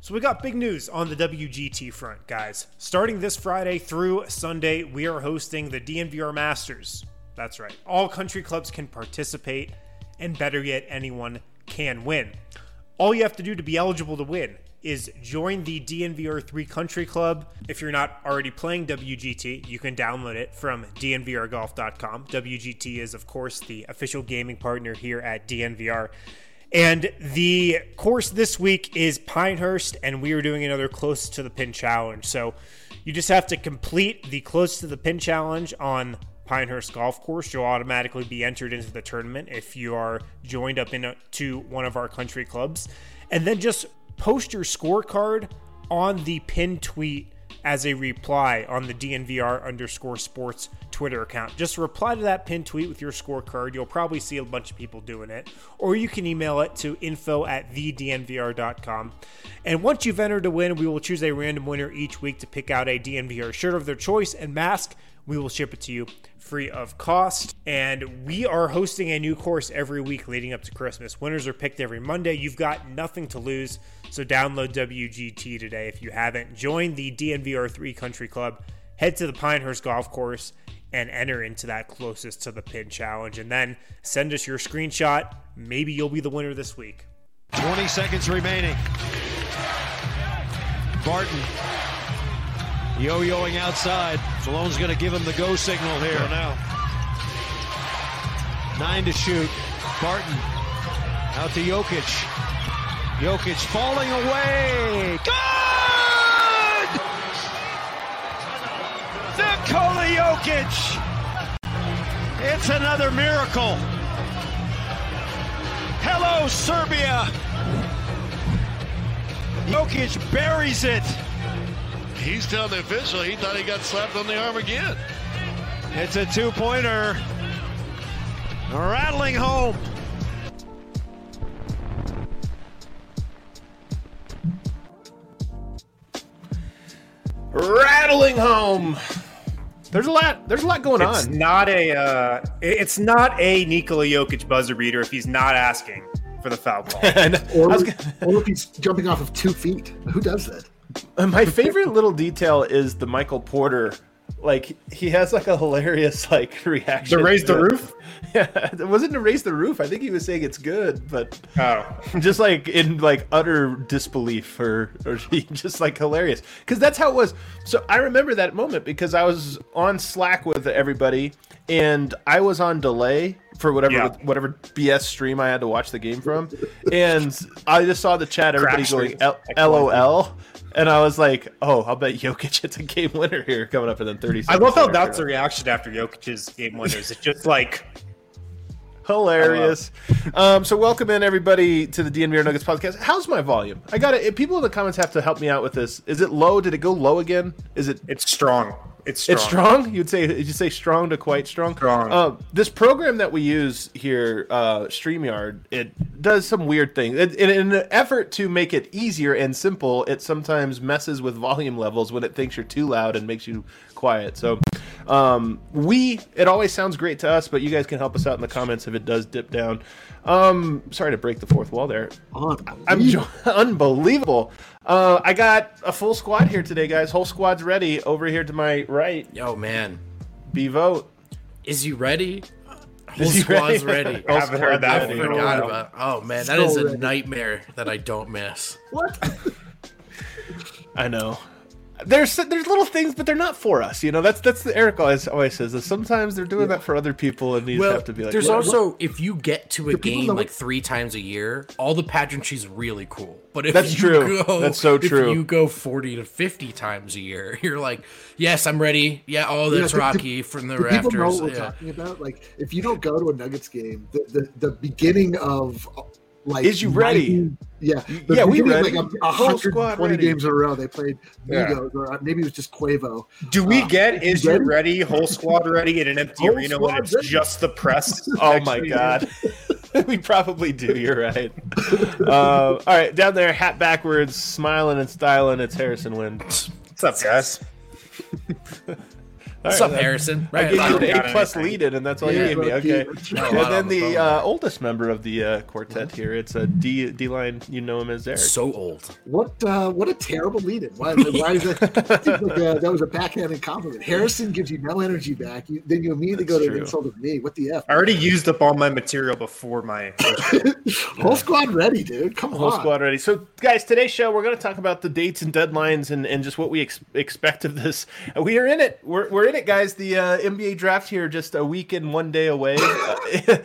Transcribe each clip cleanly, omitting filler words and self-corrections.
So we got big news on the WGT front, guys. Starting this Friday through Sunday, we are hosting the DNVR Masters. That's right. All country clubs can participate, and better yet, anyone can win. All you have to do to be eligible to win is join the DNVR 3 Country Club. If you're not already playing WGT, you can download it from dnvrgolf.com. WGT is, of course, the official gaming partner here at DNVR. And the course this week is Pinehurst, and we are doing another Close to the Pin challenge. So you just have to complete the Close to the Pin challenge on Pinehurst Golf Course. You'll automatically be entered into the tournament if you are joined up into one of our country clubs. And then just post your scorecard on the pin tweet as a reply on the DNVR_sports Twitter account. Just reply to that pin tweet with your scorecard. You'll probably see a bunch of people doing it. Or you can email it to info@thednvr.com. And once you've entered to win, we will choose a random winner each week to pick out a DNVR shirt of their choice and mask. We will ship it to you free of cost. And we are hosting a new course every week leading up to Christmas. Winners are picked every Monday. You've got nothing to lose. So download WGT today if you haven't. Join the DNVR 3 Country Club. Head to the Pinehurst Golf Course and enter into that Closest to the Pin challenge. And then send us your screenshot. Maybe you'll be the winner this week. 20 seconds remaining. Barton yo-yoing outside. Salone's going to give him the go signal here now. 9 to shoot. Barton out to Jokic. Jokic falling away. Good! Nikola Jokic. It's another miracle. Hello, Serbia. Jokic buries it. He's telling the official he thought he got slapped on the arm again. It's a two-pointer. Rattling home. Rattling home. There's a lot going on. It's not a Nikola Jokic buzzer beater if he's not asking for the foul ball. or if he's jumping off of 2 feet. Who does that? My favorite little detail is the Michael Porter. Like, he has like a hilarious reaction. To raise the roof? Yeah, it wasn't to raise the roof. I think he was saying it's good, but just in utter disbelief or just hilarious. Because that's how it was. So I remember that moment because I was on Slack with everybody and I was on delay for whatever BS stream I had to watch the game from. And I just saw the chat, everybody going LOL. And I was like, oh, I'll bet Jokic hits a game winner here coming up in 30 seconds. I love how that's the reaction after Jokic's game winners. It's just hilarious. So welcome in everybody to the DNVR Nuggets podcast. How's my volume? I got it. People in the comments have to help me out with this. Is it low? Did it go low again? It's strong. It's strong. Did you say strong to quite strong? Strong. This program that we use here, StreamYard, it does some weird things. In an effort to make it easier and simple, it sometimes messes with volume levels when it thinks you're too loud and makes you quiet. So it always sounds great to us, but you guys can help us out in the comments if it does dip down. Sorry to break the fourth wall there. Unbelievable. I got a full squad here today, guys. Whole squad's ready. Over here to my right. Yo, man. B-Vote. Is he ready? Whole squad's ready. I haven't heard that. I forgot about. Oh man, that is a nightmare that I don't miss. What? I know. There's little things, but they're not for us. That's the Eric always says that sometimes they're doing that for other people, and you just have to be like. There's also if you get to a game 3 times a year, all the pageantry is really cool. But if that's true. That's so true. If you go 40 to 50 times a year, you're like, yes, I'm ready. Yeah, that's Rocky from the rafters. People know what we're talking about. Like, if you don't go to a Nuggets game, the beginning of. Is you ready? We ready. 120 games in a row. They played Migos, or maybe it was just Quavo. Do we get "Is you ready?" Whole squad ready in an empty arena when it's just the press? Oh my god, we probably do. You're right. All right, down there, hat backwards, smiling and styling. It's Harrison Wind. What's up, guys? What's up, Harrison? I gave you an A+ lead in, and that's all you gave me. Okay. And then the oldest member of the quartet here, it's a D-line. You know him as Eric. So old. What a terrible lead in. Why is that? Seems like that was a backhanded compliment. Harrison gives you no energy back. Then you immediately go to an insult of me. What the F? I already used up all my material before my whole squad ready, dude. Come on. Whole squad ready. So, guys, today's show, we're going to talk about the dates and deadlines and just what we expect of this. We are in it. We're in it, guys. The NBA draft here just a week and 1 day away. I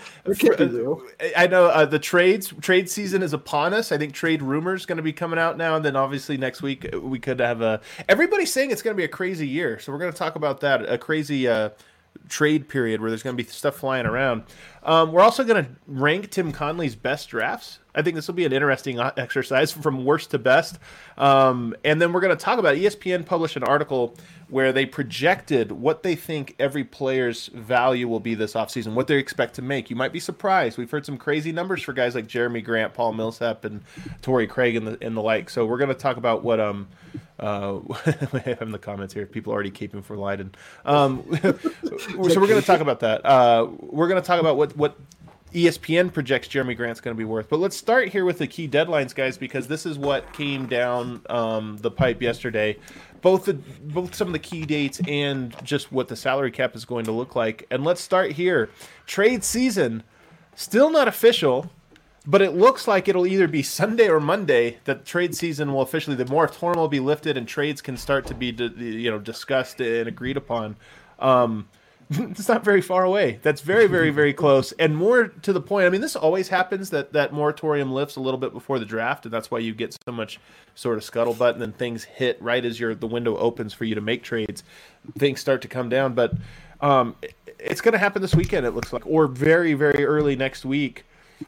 know the trade season is upon us. I think trade rumors going to be coming out now, and then obviously next week we could have everybody's saying it's going to be a crazy year. So we're going to talk about that, a crazy trade period where there's going to be stuff flying around. We're also going to rank Tim Conley's best drafts. I think this will be an interesting exercise from worst to best. And then we're going to talk about ESPN published an article where they projected what they think every player's value will be this offseason, what they expect to make. You might be surprised. We've heard some crazy numbers for guys like Jeremy Grant, Paul Millsap, and Torrey Craig and the like. So we're going to talk about what we have in the comments here. People already caping for Leiden. So we're going to talk about that. We're going to talk about what ESPN projects Jeremy Grant's going to be worth. But let's start here with the key deadlines, guys, because this is what came down the pipe yesterday. Both some of the key dates and just what the salary cap is going to look like. And let's start here. Trade season, still not official, but it looks like it'll either be Sunday or Monday that trade season will officially, the moratorium will be lifted and trades can start to be discussed and agreed upon. It's not very far away. That's very, very, very close. And more to the point, I mean, this always happens that moratorium lifts a little bit before the draft, and that's why you get so much sort of scuttlebutt, and then things hit right as the window opens for you to make trades. Things start to come down, but it's going to happen this weekend, it looks like, or very, very early next week.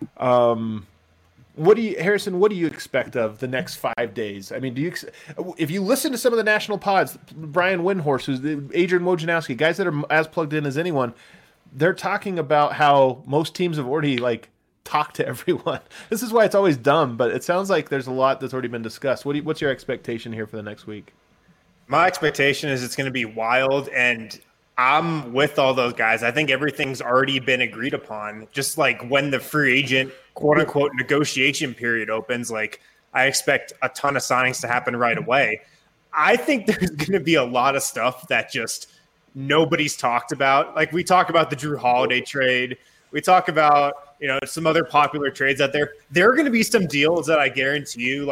Harrison, what do you expect of the next 5 days? I mean, if you listen to some of the national pods, Brian Windhorst, Adrian Wojnarowski, guys that are as plugged in as anyone, they're talking about how most teams have already talked to everyone. This is why it's always dumb, but it sounds like there's a lot that's already been discussed. What's your expectation here for the next week? My expectation is it's going to be wild, and I'm with all those guys. I think everything's already been agreed upon. Just like when the free agent, quote unquote, negotiation period opens, I expect a ton of signings to happen right away. I think there's going to be a lot of stuff that just nobody's talked about. Like we talk about the Drew Holiday trade. We talk about, some other popular trades out there. There are going to be some deals that I guarantee you,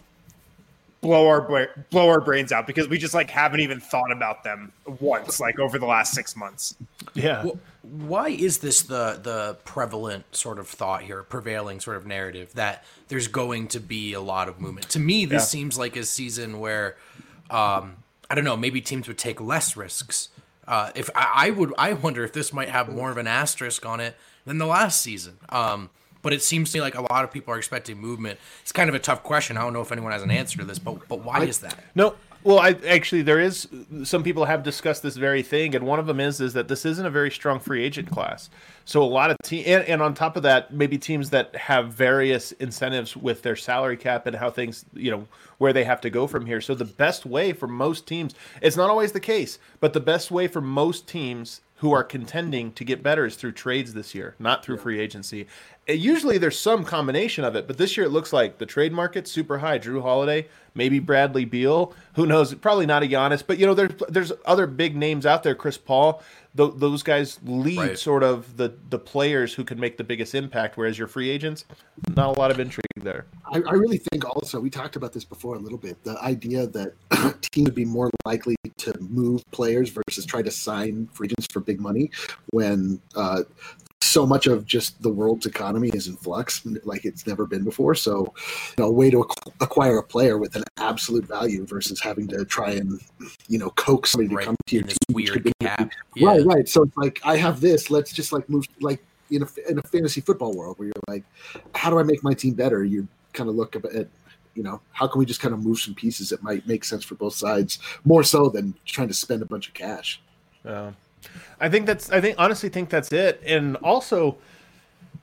blow our brains out because we just haven't even thought about them once over the last 6 months. Yeah. Well, why is this the prevalent sort of thought here, prevailing sort of narrative that there's going to be a lot of movement? To me, this seems like a season where I don't know, maybe teams would take less risks. If I wonder if this might have more of an asterisk on it than the last season. But it seems to me like a lot of people are expecting movement. It's kind of a tough question. I don't know if anyone has an answer to this, but why is that? No, well, there is some people have discussed this very thing, and one of them is that this isn't a very strong free agent class. So a lot of teams, and on top of that, maybe teams that have various incentives with their salary cap and how things, where they have to go from here. So the best way for most teams, it's not always the case, but the best way for most teams who are contending to get better is through trades this year, not through free agency. Usually there's some combination of it, but this year it looks like the trade market's super high. Drew Holiday, maybe Bradley Beal, who knows? Probably not a Giannis, but there's other big names out there. Chris Paul, those guys lead sort of the players who can make the biggest impact. Whereas your free agents, not a lot of intrigue there. I really think also we talked about this before a little bit. The idea that teams would be more likely to move players versus try to sign free agents for big money when so much of just the world's economy is in flux like it's never been before. So, a way to acquire a player with an absolute value versus having to try and, coax somebody to come to your team. Weird cap. Yeah. Right. So it's I have this, let's just move in a fantasy football world where you're how do I make my team better? You kind of look at, how can we just kind of move some pieces that might make sense for both sides more so than trying to spend a bunch of cash. I honestly think that's it. And also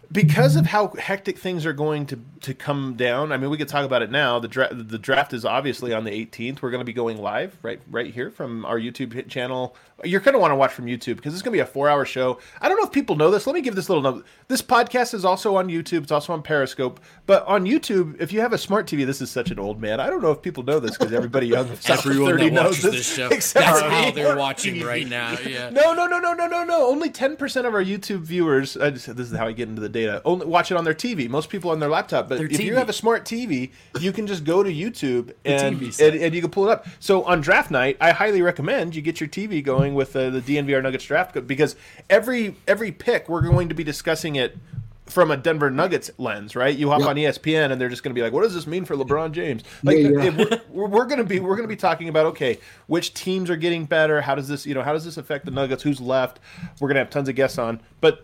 because of how hectic things are going to come down, I mean, we could talk about it now. The draft is obviously on the 18th. We're going to be going live right here from our YouTube channel. You're going to want to watch from YouTube because it's going to be a 4-hour show. I don't know if people know this. Let me give this little note. This podcast is also on YouTube. It's also on Periscope. But on YouTube, if you have a smart TV, this is such an old man. I don't know if people know this because everybody young south of 30 knows this show. Exactly. That's how they're watching right now. Yeah. No. Only 10% of our YouTube viewers. This is how I get into the data. Only watch it on their TV. Most people on their laptop. But if you have a smart TV, you can just go to YouTube and you can pull it up. So on draft night, I highly recommend you get your TV going with the DNVR Nuggets draft because every pick we're going to be discussing it from a Denver Nuggets lens, right? You hop on ESPN and they're just going to be like, "What does this mean for LeBron James?" Like, we're going to be talking about, okay, which teams are getting better? How does this affect the Nuggets? Who's left? We're going to have tons of guests on, but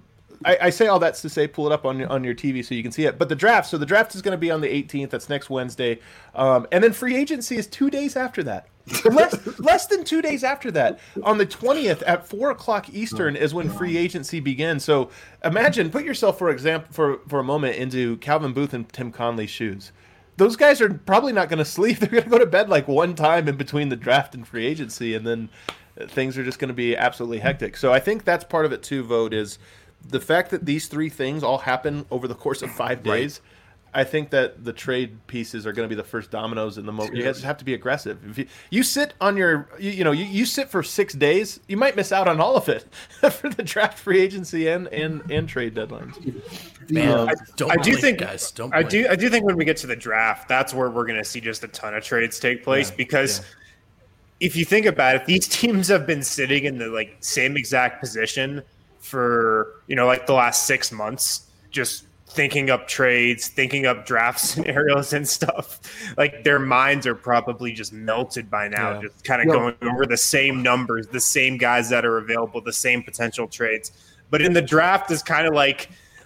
I say all that's to say, pull it up on your TV so you can see it. But the draft is going to be on the 18th. That's next Wednesday, and then free agency is 2 days after that. Less than 2 days after that, on the 20th at 4:00 Eastern is when free agency begins. So imagine, put yourself for a moment into Calvin Booth and Tim Conley's shoes. Those guys are probably not going to sleep. They're going to go to bed like one time in between the draft and free agency, and then things are just going to be absolutely hectic. So I think that's part of it too. Vote is the fact that these three things all happen over the course of 5 days. Right. I think that the trade pieces are going to be the first dominoes in the moment. You guys have to be aggressive. If you sit on your, you sit for 6 days, you might miss out on all of it for the draft, free agency, and trade deadlines. Man, I do think when we get to the draft, that's where we're going to see just a ton of trades take place because if you think about it, these teams have been sitting in the same exact position for the last 6 months, just thinking up trades, thinking up draft scenarios and stuff. Like their minds are probably just melted by now, just kind of going over the same numbers, the same guys that are available, the same potential trades. But in the draft is kind of like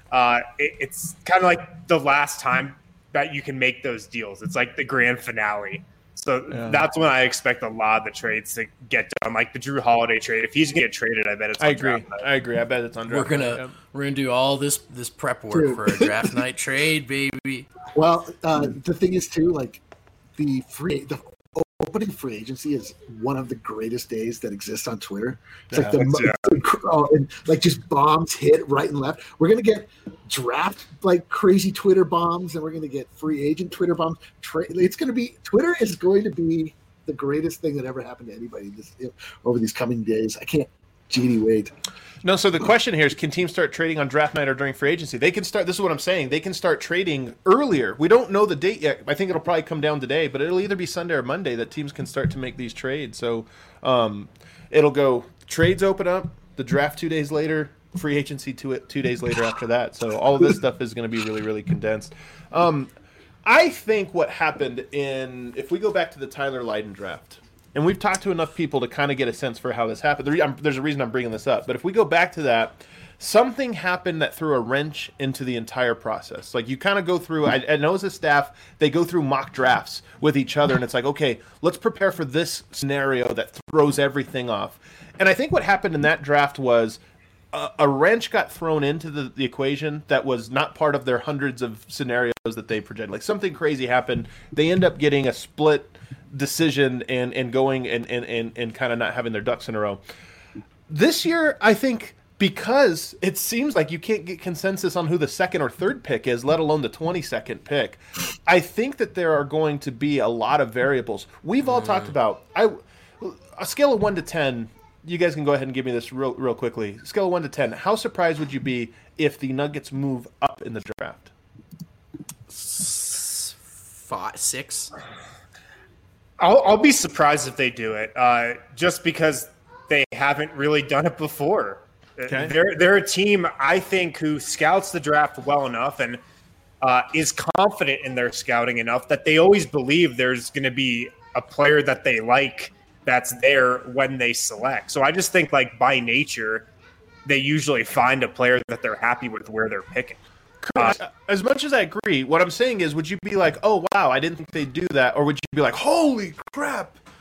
it's kind of like the last time that you can make those deals. It's like the grand finale. So that's when I expect a lot of the trades to get done, like the Drew Holiday trade. If he's gonna get traded, I bet it's. I agree. I bet it's on draft. We're gonna do all this prep work for a draft night trade, baby. Well, the thing is too, like the opening free agency is one of the greatest days that exists on Twitter. It's and just bombs hit right and left. We're gonna get draft crazy Twitter bombs, and we're gonna get free agent Twitter bombs. Twitter is going to be the greatest thing that ever happened to anybody over these coming days. I can't wait. No, so the question here is, can teams start trading on draft night or during free agency? They can start. This is what I'm saying. They can start trading earlier. We don't know the date yet. I think it'll probably come down today, but it'll either be Sunday or Monday that teams can start to make these trades. So it'll go trades open up, the draft 2 days later, free agency 2 days later after that. So all of this stuff is going to be really, really condensed. I think what happened if we go back to the Tyler Lydon draft, and we've talked to enough people to kind of get a sense for how this happened. There's a reason I'm bringing this up. But if we go back to that, something happened that threw a wrench into the entire process. Like you kind of go through, I know as a staff, they go through mock drafts with each other. And it's like, okay, let's prepare for this scenario that throws everything off. And I think what happened in that draft was a wrench got thrown into the equation that was not part of their hundreds of scenarios that they projected. Like something crazy happened. They end up getting a split decision and going and kind of not having their ducks in a row. This year, I think, because it seems like you can't get consensus on who the second or third pick is, let alone the 22nd pick, I think that there are going to be a lot of variables. We've all talked about a scale of 1 to 10. You guys can go ahead and give me this real quickly. Scale of 1 to 10. How surprised would you be if the Nuggets move up in the draft? 5, 6. I'll be surprised if they do it, just because they haven't really done it before. Okay. They're a team, I think, who scouts the draft well enough and is confident in their scouting enough that they always believe there's going to be a player that they like that's there when they select. So I just think, by nature, they usually find a player that they're happy with where they're picking. As much as I agree, what I'm saying is, would you be like, oh, wow, I didn't think they'd do that? Or would you be like, holy crap,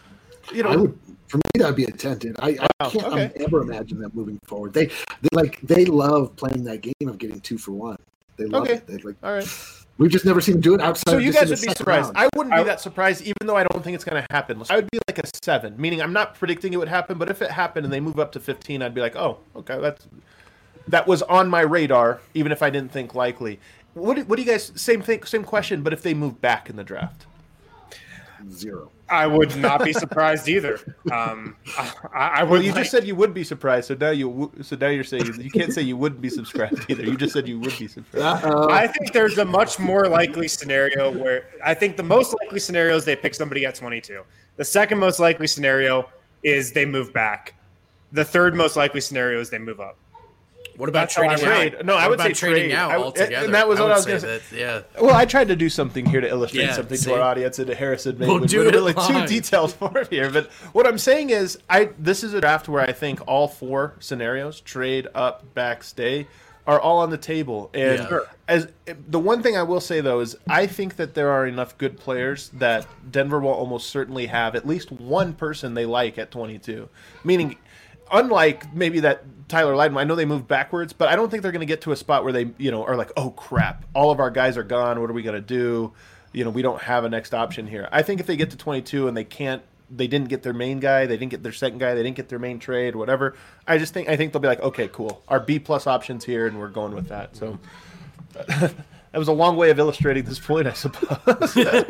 I would. For me, that would be a 10. Dude. I can't ever imagine them moving forward. They love playing that game of getting 2 for 1. They love it. All right. We've just never seen them do it outside. So of you just guys would be surprised. Round. I wouldn't be that surprised, even though I don't think it's going to happen. I would be like a 7, meaning I'm not predicting it would happen, but if it happened and they move up to 15, I'd be like, oh, okay, that was on my radar, even if I didn't think likely. What do you guys, same question, but if they move back in the draft? 0. I would not be surprised either. I would. Well, you just said you would be surprised, so now you're saying you can't say you wouldn't be subscribed either. You just said you would be surprised. I think there's a much more likely scenario where I think the most likely scenario is they pick somebody at 22. The second most likely scenario is they move back. The third most likely scenario is they move up. What about trading out? No, I would say trading trade. out altogether. And that was what I was going to say. Yeah. Well, I tried to do something here to illustrate something to our audience, and Harrison made it really too detailed for it here. But what I'm saying is, this is a draft where I think all 4 scenarios, trade, up, back, stay, are all on the table. And as the one thing I will say, though, is I think that there are enough good players that Denver will almost certainly have at least one person they like at 22. Meaning, unlike maybe that Tyler Lydon, I know they moved backwards, but I don't think they're going to get to a spot where they, are like, oh crap, all of our guys are gone. What are we going to do? We don't have a next option here. I think if they get to 22 and they didn't get their main guy, they didn't get their second guy, they didn't get their main trade, whatever. I think they'll be like, okay, cool. Our B+ options here, and we're going with that. So that was a long way of illustrating this point, I suppose.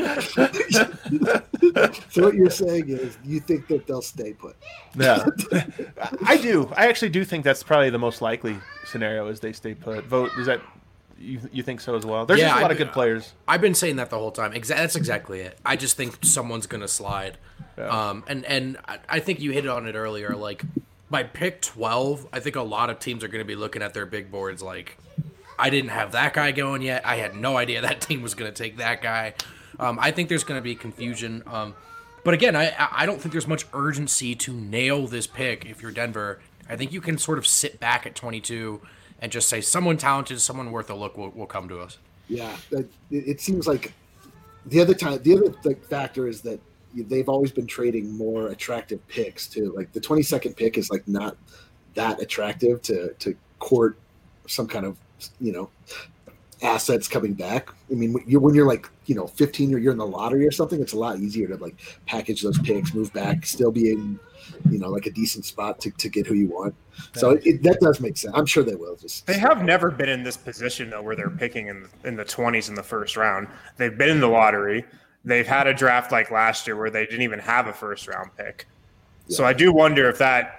So what you're saying is you think that they'll stay put? Yeah, I do. I actually do think that's probably the most likely scenario is they stay put. Vote, is that you think so as well? There's just a lot of good players. I've been saying that the whole time. That's exactly it. I just think someone's going to slide. Yeah. And I think you hit on it earlier. Like, by pick 12, I think a lot of teams are going to be looking at their big boards like, I didn't have that guy going yet. I had no idea that team was going to take that guy. I think there's going to be confusion. But again, I don't think there's much urgency to nail this pick if you're Denver. I think you can sort of sit back at 22 and just say someone talented, someone worth a look will come to us. Yeah, it seems like the other factor is that they've always been trading more attractive picks too. Like the 22nd pick is like not that attractive to court some kind of assets coming back. I mean, when you're like 15 or you're in the lottery or something, it's a lot easier to like package those picks, move back, still be in like a decent spot to get who you want. So that does make sense. I'm sure they will. They have never been in this position though, where they're picking in the 20s in the first round. They've been in the lottery. They've had a draft like last year where they didn't even have a first round pick. Yeah. So I do wonder if that,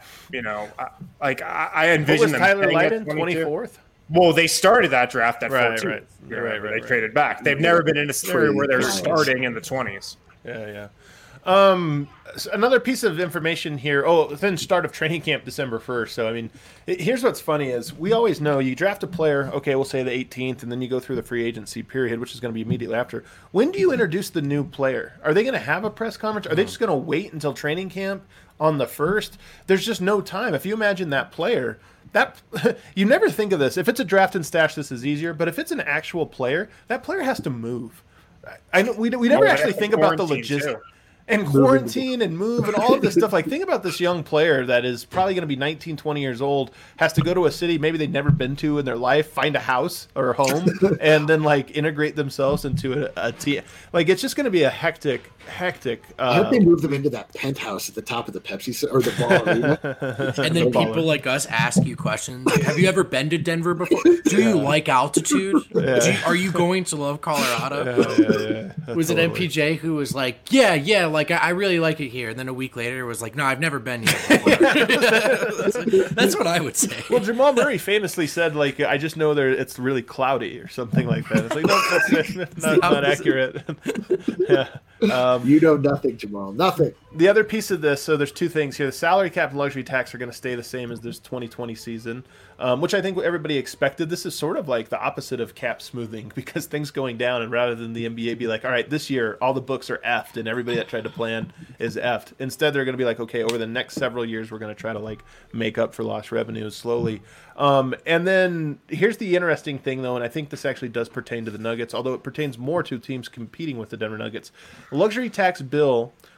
I envision them. Tyler Lydon, 24th. Well, they started that draft at 14. Right. They traded back. They've never been in a scenario where they're starting in the 20s. Yeah. So another piece of information here. Then start of training camp December 1st. So, I mean, here's what's funny is we always know you draft a player, okay, we'll say the 18th, and then you go through the free agency period, which is going to be immediately after. When do you introduce the new player? Are they going to have a press conference? Are they just going to wait until training camp on the 1st? There's just no time. If you imagine that player, you never think of this. If it's a draft and stash, this is easier. But if it's an actual player, that player has to move. I know we never actually think about the logistics. And quarantine and move and all of this stuff. Like, think about this young player that is probably going to be 19, 20 years old, has to go to a city maybe they've never been to in their life, find a house or a home, and then, like, integrate themselves into a team. Like, it's just going to be a hectic. I hope they move them into that penthouse at the top of the Pepsi or the ball arena. And then people like us ask you questions. Like, have you ever been to Denver before? Do you like altitude? Yeah. Are you going to love Colorado? Yeah. Was it MPJ who was like, yeah, like I really like it here, and then a week later was like, no, I've never been here before. That's what I would say. Well, Jamal Murray famously said, like, I just know it's really cloudy or something like that. It's like, no, that's not accurate. Yeah. You know nothing, Jamal. Nothing. The other piece of this, so there's two things here. The salary cap and luxury tax are going to stay the same as this 2020 season, which I think everybody expected. This is sort of like the opposite of cap smoothing because things going down, and rather than the NBA be like, all right, this year all the books are effed and everybody that tried to plan is effed. Instead, they're going to be like, okay, over the next several years, we're going to try to like make up for lost revenues slowly. And then here's the interesting thing, though, and I think this actually does pertain to the Nuggets, although it pertains more to teams competing with the Denver Nuggets. The luxury tax bill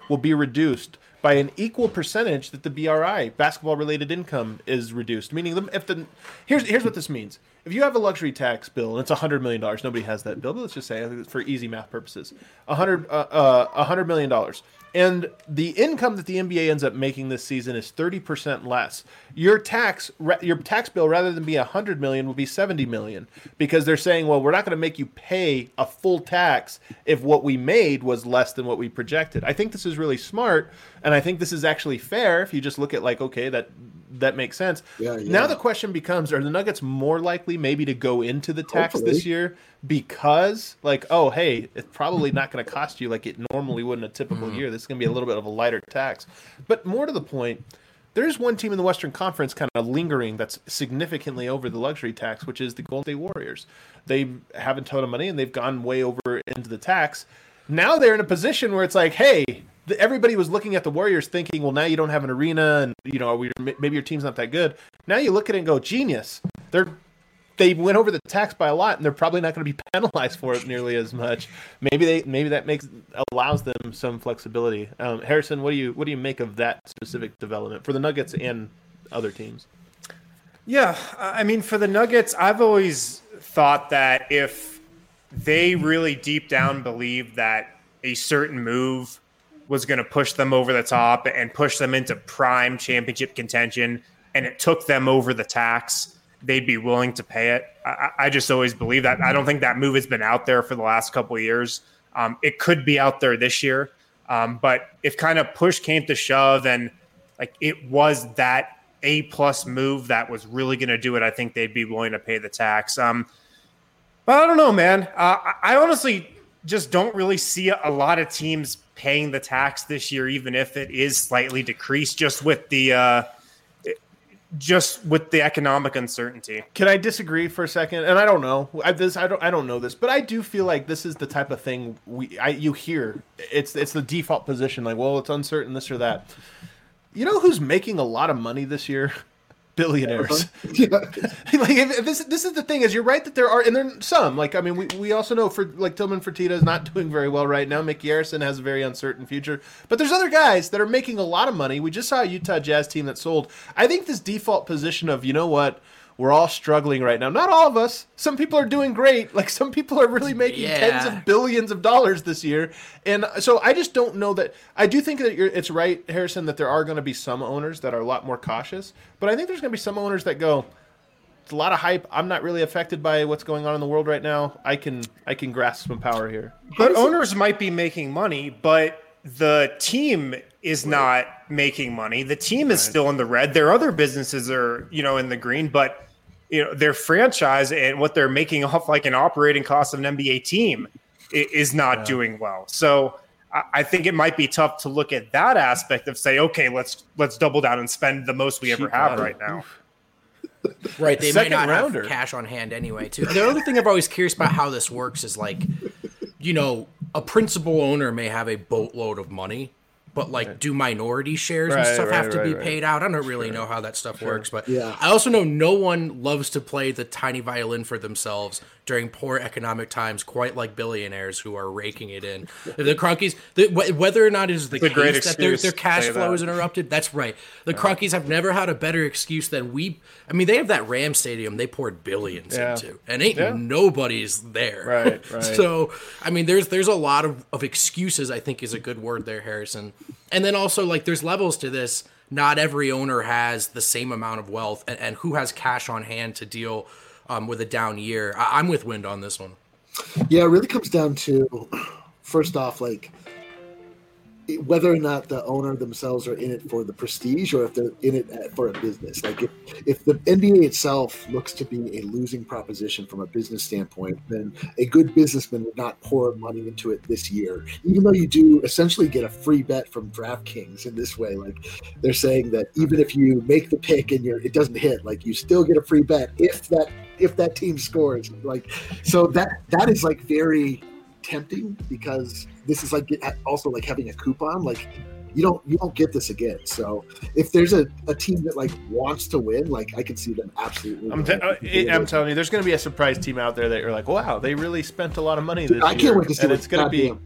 will be reduced by an equal percentage that the BRI, basketball-related income, is reduced. Meaning, here's what this means. If you have a luxury tax bill and it's $100 million, nobody has that bill, but let's just say, for easy math purposes, $100 million. And the income that the NBA ends up making this season is 30% less. Your tax bill, rather than be $100 million, will be $70 million, because they're saying, well, we're not going to make you pay a full tax if what we made was less than what we projected. I think this is really smart, and I think this is actually fair if you just look at like, okay, that makes sense. Yeah. Now the question becomes, are the Nuggets more likely maybe to go into the tax this year because, like, oh, hey, it's probably not going to cost you like it normally would in a typical year. This is going to be a little bit of a lighter tax. But more to the point, there's one team in the Western Conference kind of lingering that's significantly over the luxury tax, which is the Golden State Warriors. They have a ton of money, and they've gone way over into the tax. Now they're in a position where it's like, hey, everybody was looking at the Warriors thinking, well, now you don't have an arena, and maybe your team's not that good. Now you look at it and go, genius. They went over the tax by a lot, and they're probably not going to be penalized for it nearly as much. Maybe that allows them some flexibility. Harrison, what do you make of that specific development for the Nuggets and other teams? Yeah, I mean, for the Nuggets, I've always thought that if they really deep down believed that a certain move was going to push them over the top and push them into prime championship contention, and it took them over the tax, they'd be willing to pay it. I just always believe that. I don't think that move has been out there for the last couple of years. It could be out there this year, but if kind of push came to shove and like it was that A+ move that was really going to do it, I think they'd be willing to pay the tax. But I don't know, man. I honestly just don't really see a lot of teams paying the tax this year, even if it is slightly decreased, just with the economic uncertainty. Can I disagree for a second? And I don't know. I don't know this, but I do feel like this is the type of thing you hear. It's the default position, like, well, it's uncertain, this or that. You know who's making a lot of money this year? Billionaires. Yeah. Like this is the thing, is you're right that there are, and there are some, like, I mean, we also know for like Tillman Fertitta is not doing very well right now. Mickey Harrison has a very uncertain future, but there's other guys that are making a lot of money. We just saw a Utah Jazz team that sold. I think this default position of, you know what, we're all struggling right now. Not all of us. Some people are doing great. Like, some people are really making tens of billions of dollars this year. And so I just don't know that. I do think that it's right, Harrison, that there are going to be some owners that are a lot more cautious. But I think there's going to be some owners that go, it's a lot of hype. I'm not really affected by what's going on in the world right now. I can grasp some power here. But owners might be making money, but the team is not making money. The team is still in the red. Their other businesses are, in the green, but their franchise and what they're making off like an operating cost of an NBA team is not doing well. So I think it might be tough to look at that aspect of say, okay, let's double down and spend the most we ever have right now. Right. They might not have cash on hand anyway, too. The other thing I'm always curious about how this works is like, a principal owner may have a boatload of money, but like, do minority shares and stuff have to be paid out? I don't really know how that stuff works, but I also know no one loves to play the tiny violin for themselves during poor economic times, quite like billionaires who are raking it in. The Kroenkes, whether or not it is the case that their cash flow is interrupted, that's right. The Kroenkes have never had a better excuse than we. I mean, they have that Ram Stadium they poured billions into, and nobody's there. Right. So, I mean, there's a lot of excuses, I think is a good word there, Harrison. And then also, like, there's levels to this. Not every owner has the same amount of wealth, and who has cash on hand to deal with a down year. I'm with Wind on this one. Yeah, it really comes down to, first off, like, whether or not the owner themselves are in it for the prestige or if they're in it for a business. Like, if the NBA itself looks to be a losing proposition from a business standpoint, then a good businessman would not pour money into it this year, even though you do essentially get a free bet from DraftKings in this way. Like, they're saying that even if you make the pick and it doesn't hit, like, you still get a free bet if that team scores. Like, so that is like very tempting, because this is like also like having a coupon. Like, you don't get this again. So if there's a team that like wants to win, like, I can see them absolutely. I'm telling you, there's going to be a surprise team out there that you're like, wow, they really spent a lot of money this year. I can't wait to see and it's going to be.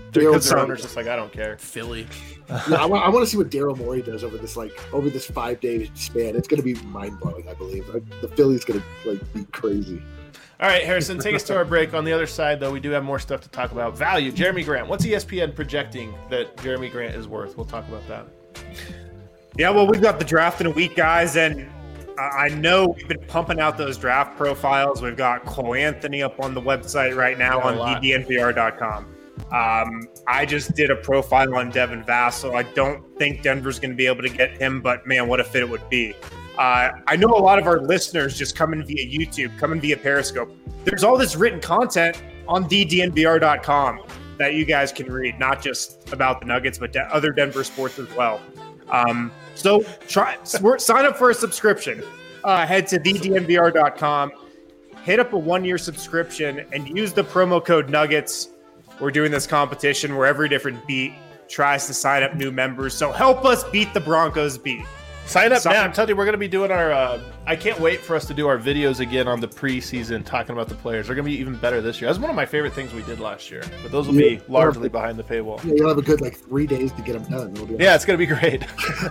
because their owner's just like, I don't care. Philly. I want to see what Daryl Morey does over this 5-day span. It's going to be mind blowing. I believe the Philly's going to be crazy. All right, Harrison, take us to our break. On the other side, though, we do have more stuff to talk about. Value, Jeremy Grant. What's ESPN projecting that Jeremy Grant is worth? We'll talk about that. Yeah, well, we've got the draft in a week, guys, and I know we've been pumping out those draft profiles. We've got Cole Anthony up on the website right now on DNVR.com. I just did a profile on Devin Vassell. I don't think Denver's going to be able to get him, but man, what a fit it would be. I know a lot of our listeners just come in via YouTube, come in via Periscope. There's all this written content on DNVR.com that you guys can read, not just about the Nuggets, but other Denver sports as well. So sign up for a subscription. Head to DNVR.com, hit up a 1-year subscription, and use the promo code Nuggets. We're doing this competition where every different beat tries to sign up new members. So help us beat the Broncos beat. Sign up now. I'm telling you, we're going to be doing our I can't wait for us to do our videos again on the preseason talking about the players. They're going to be even better this year. That's one of my favorite things we did last year. But those will be largely behind the paywall. Yeah, you'll have a good 3 days to get them done. It's going to be great.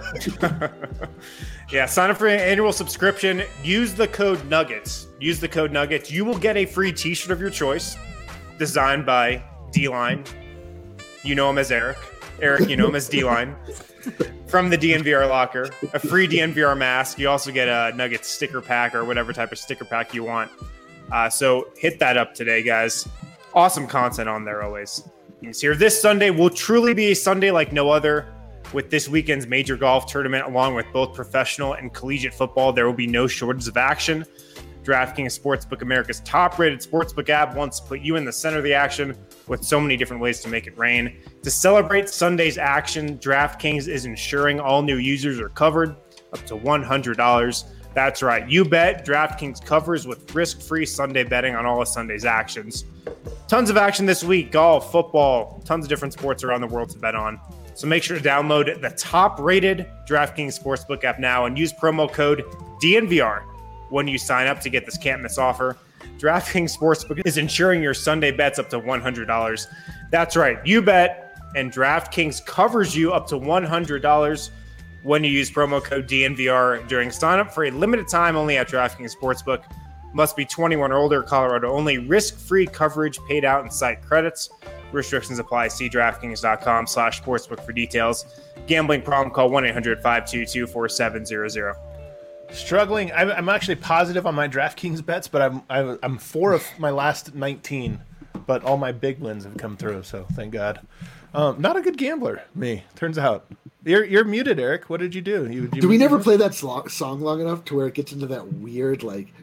Yeah, sign up for an annual subscription. Use the code Nuggets. Use the code Nuggets. You will get a free t-shirt of your choice designed by D-Line. You know him as Eric. Eric, you know him as D-Line. From the DNVR locker, a free DNVR mask. You also get a Nuggets sticker pack or whatever type of sticker pack you want. So hit that up today, guys. Awesome content on there always. It's here this Sunday will truly be a Sunday like no other. With this weekend's major golf tournament, along with both professional and collegiate football, there will be no shortage of action. DraftKings Sportsbook, America's top-rated sportsbook app, wants to put you in the center of the action with so many different ways to make it rain. To celebrate Sunday's action, DraftKings is ensuring all new users are covered up to $100. That's right, you bet. DraftKings covers with risk-free Sunday betting on all of Sunday's actions. Tons of action this week: golf, football, tons of different sports around the world to bet on. So make sure to download the top-rated DraftKings Sportsbook app now and use promo code DNVR when you sign up to get this can't-miss offer. DraftKings Sportsbook is insuring your Sunday bets up to $100. That's right, you bet, and DraftKings covers you up to $100 when you use promo code DNVR during sign-up for a limited time only at DraftKings Sportsbook. Must be 21 or older, Colorado only. Risk-free coverage paid out in site credits. Restrictions apply. See DraftKings.com/sportsbook for details. Gambling problem? Call 1-800-522-4700. Struggling. I'm actually positive on my DraftKings bets, but I'm 4 of my last 19, but all my big wins have come through, so thank God. Not a good gambler, me. Turns out. You're muted, Eric. What did you do? Do we never play that song long enough to where it gets into that weird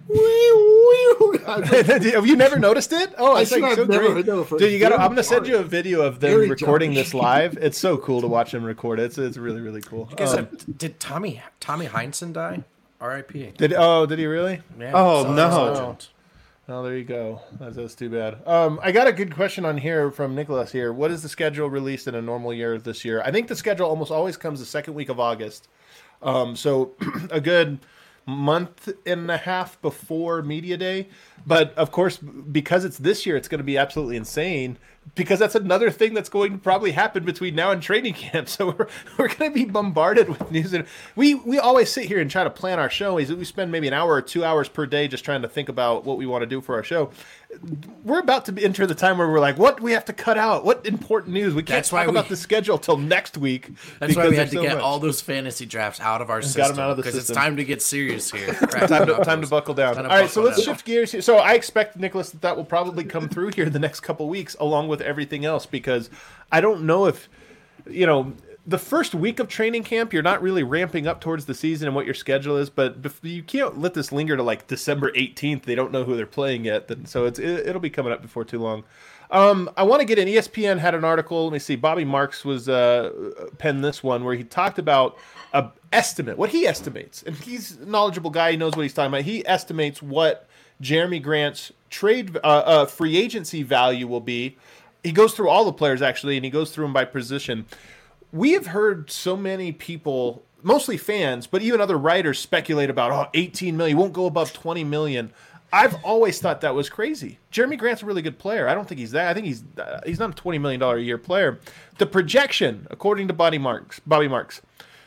Have you never noticed it? Oh, it's like so great. Dude, I'm gonna send you a video of them recording this live. It's so cool to watch them record it. It's really, really cool. Did Tommy Heinsohn die? R.I.P. Did he really? Yeah, oh no. Oh, there you go. That's too bad. I got a good question on here from Nicholas here. What is the schedule released in a normal year this year? I think the schedule almost always comes the second week of August. So a good month and a half before Media Day. But, of course, because it's this year, it's going to be absolutely insane because that's another thing that's going to probably happen between now and training camp. So we're going to be bombarded with news. And we always sit here and try to plan our show. We spend maybe an hour or 2 hours per day just trying to think about what we want to do for our show. We're about to enter the time where we're like, what do we have to cut out? What important news? We can't talk about the schedule till next week. That's why we had to get all those fantasy drafts out of our system because it's time to get serious here. time to buckle down. All right, so let's shift gears here. So I expect, Nicholas, that will probably come through here the next couple weeks along with everything else because I don't know if, the first week of training camp, you're not really ramping up towards the season and what your schedule is, but you can't let this linger to like December 18th. They don't know who they're playing yet, so it'll be coming up before too long. I want to get in. ESPN had an article. Let me see. Bobby Marks was penned this one where he talked about a estimate, what he estimates, and he's a knowledgeable guy. He knows what he's talking about. He estimates what Jeremy Grant's trade free agency value will be. He goes through all the players actually, and he goes through them by position. We have heard so many people, mostly fans, but even other writers speculate about, $18 million, won't go above $20 million. I've always thought that was crazy. Jeremy Grant's a really good player. I don't think he's that. I think he's not a $20 million a year player. The projection, according to Bobby Marks, $12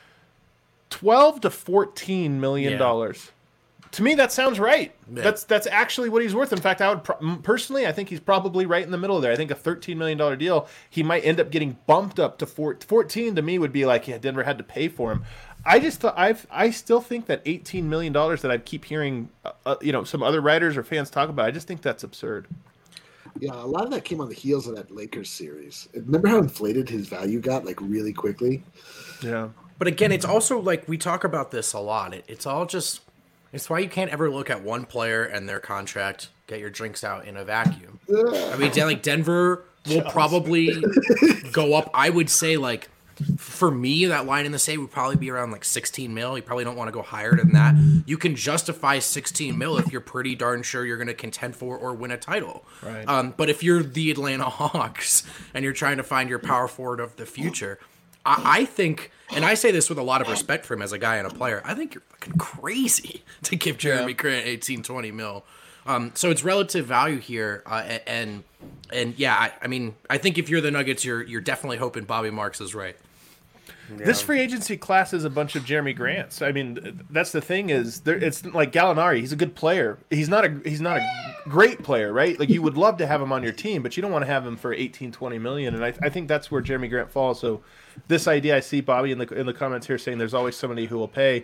to $14 million. To me, that sounds right. Yeah. That's actually what he's worth. In fact, I would personally, I think he's probably right in the middle there. I think a $13 million deal, he might end up getting bumped up to 14. To me, would be like, yeah, Denver had to pay for him. I just thought I still think that $18 million that I keep hearing, some other writers or fans talk about. I just think that's absurd. Yeah, a lot of that came on the heels of that Lakers series. Remember how inflated his value got, like, really quickly? Yeah. But again, it's also like we talk about this a lot. It's all just. It's why you can't ever look at one player and their contract, get your drinks out in a vacuum. I mean, like Denver will probably go up. I would say, like, for me, that line in the state would probably be around like 16 mil. You probably don't want to go higher than that. You can justify 16 mil if you're pretty darn sure you're going to contend for or win a title. Right. But if you're the Atlanta Hawks and you're trying to find your power forward of the future, I think, and I say this with a lot of respect for him as a guy and a player, I think you're fucking crazy to give Jeremy Grant 18, 20 mil. So it's relative value here. And yeah, I mean, I think if you're the Nuggets, you're definitely hoping Bobby Marks is right. Yeah. This free agency class is a bunch of Jeremy Grants. I mean, that's the thing is, it's like Gallinari. He's a good player. He's not a great player, right? Like, you would love to have him on your team, but you don't want to have him for 18, 20 million. And I think that's where Jeremy Grant falls. So this idea, I see Bobby in the comments here saying there's always somebody who will pay.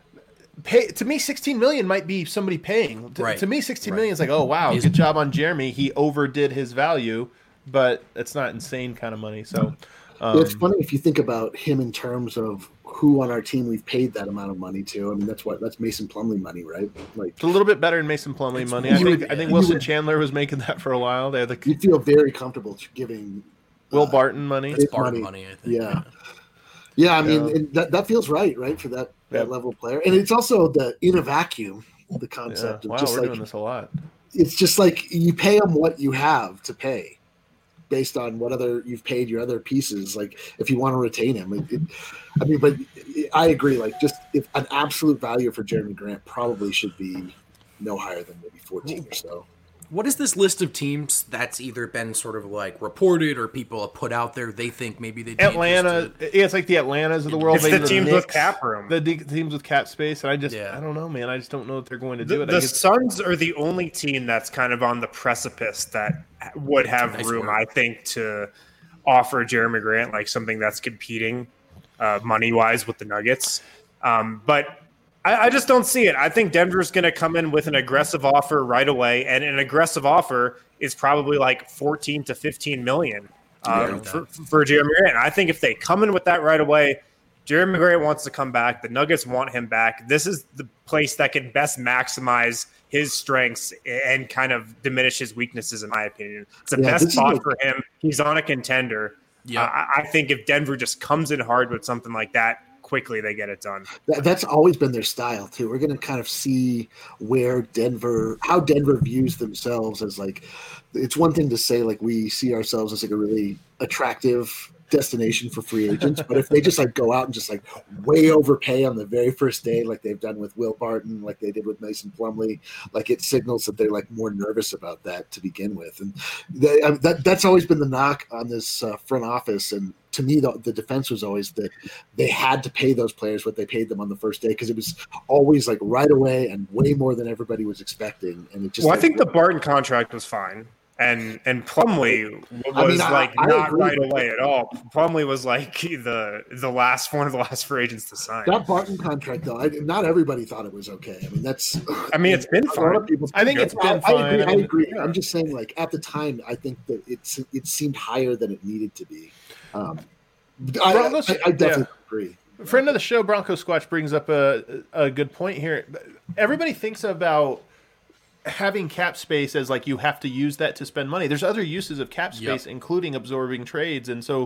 To me, 16 million might be somebody paying. To me, 16 million is like, oh wow, good job on Jeremy. He overdid his value, but it's not insane kind of money. So. It's funny if you think about him in terms of who on our team we've paid that amount of money to. I mean, that's Mason Plumlee money, right? Like, it's a little bit better than Mason Plumlee money. I think Wilson Chandler was making that for a while. You feel very comfortable giving Will Barton money. It's Barton money, I think. Yeah. I mean, that feels right for that level of player, and it's also in a vacuum. The concept of just we're doing this a lot. It's just like you pay them what you have to pay, based on what you've paid your other pieces. Like, if you want to retain him, but I agree. Like, just if an absolute value for Jeremy Grant probably should be no higher than maybe 14 or so. What is this list of teams that's either been sort of like reported or people have put out there? They think maybe they Atlanta. Yeah, it's like the Atlantas of the world. It's the teams with cap room. The teams with cap space. And I don't know, man. I just don't know if they're going to do it. The Suns are the only team that's kind of on the precipice that would have room, I think, to offer Jeremy Grant like something that's competing money-wise with the Nuggets. But I just don't see it. I think Denver's going to come in with an aggressive offer right away, and an aggressive offer is probably like 14 to 15 million for Jeremy Grant. I think if they come in with that right away, Jeremy Grant wants to come back. The Nuggets want him back. This is the place that can best maximize his strengths and kind of diminish his weaknesses, in my opinion. It's the best spot for him. He's on a contender. Yeah. I think if Denver just comes in hard with something like that, quickly they get it done. That's always been their style too. We're going to kind of see how Denver views themselves as, like, it's one thing to say like we see ourselves as like a really attractive destination for free agents, but if they just like go out and just like way overpay on the very first day, like they've done with Will Barton, like they did with Mason Plumlee, like it signals that they're like more nervous about that to begin with. And that's always been the knock on this front office. And to me, the defense was always that they had to pay those players what they paid them on the first day, because it was always like right away and way more than everybody was expecting. And it just I think the Barton contract was fine. And Plumlee was not right away at all. Plumlee was like the last one of the last free agents to sign. That Barton contract, though, not everybody thought it was okay. I mean, it's been fine. I think it's been fine. I agree. Yeah. I'm just saying, like, at the time, I think that it seemed higher than it needed to be. I definitely agree. Friend of the show, Bronco Squatch, brings up a good point here. Everybody thinks about having cap space as like you have to use that to spend money. There's other uses of cap space, including absorbing trades. And so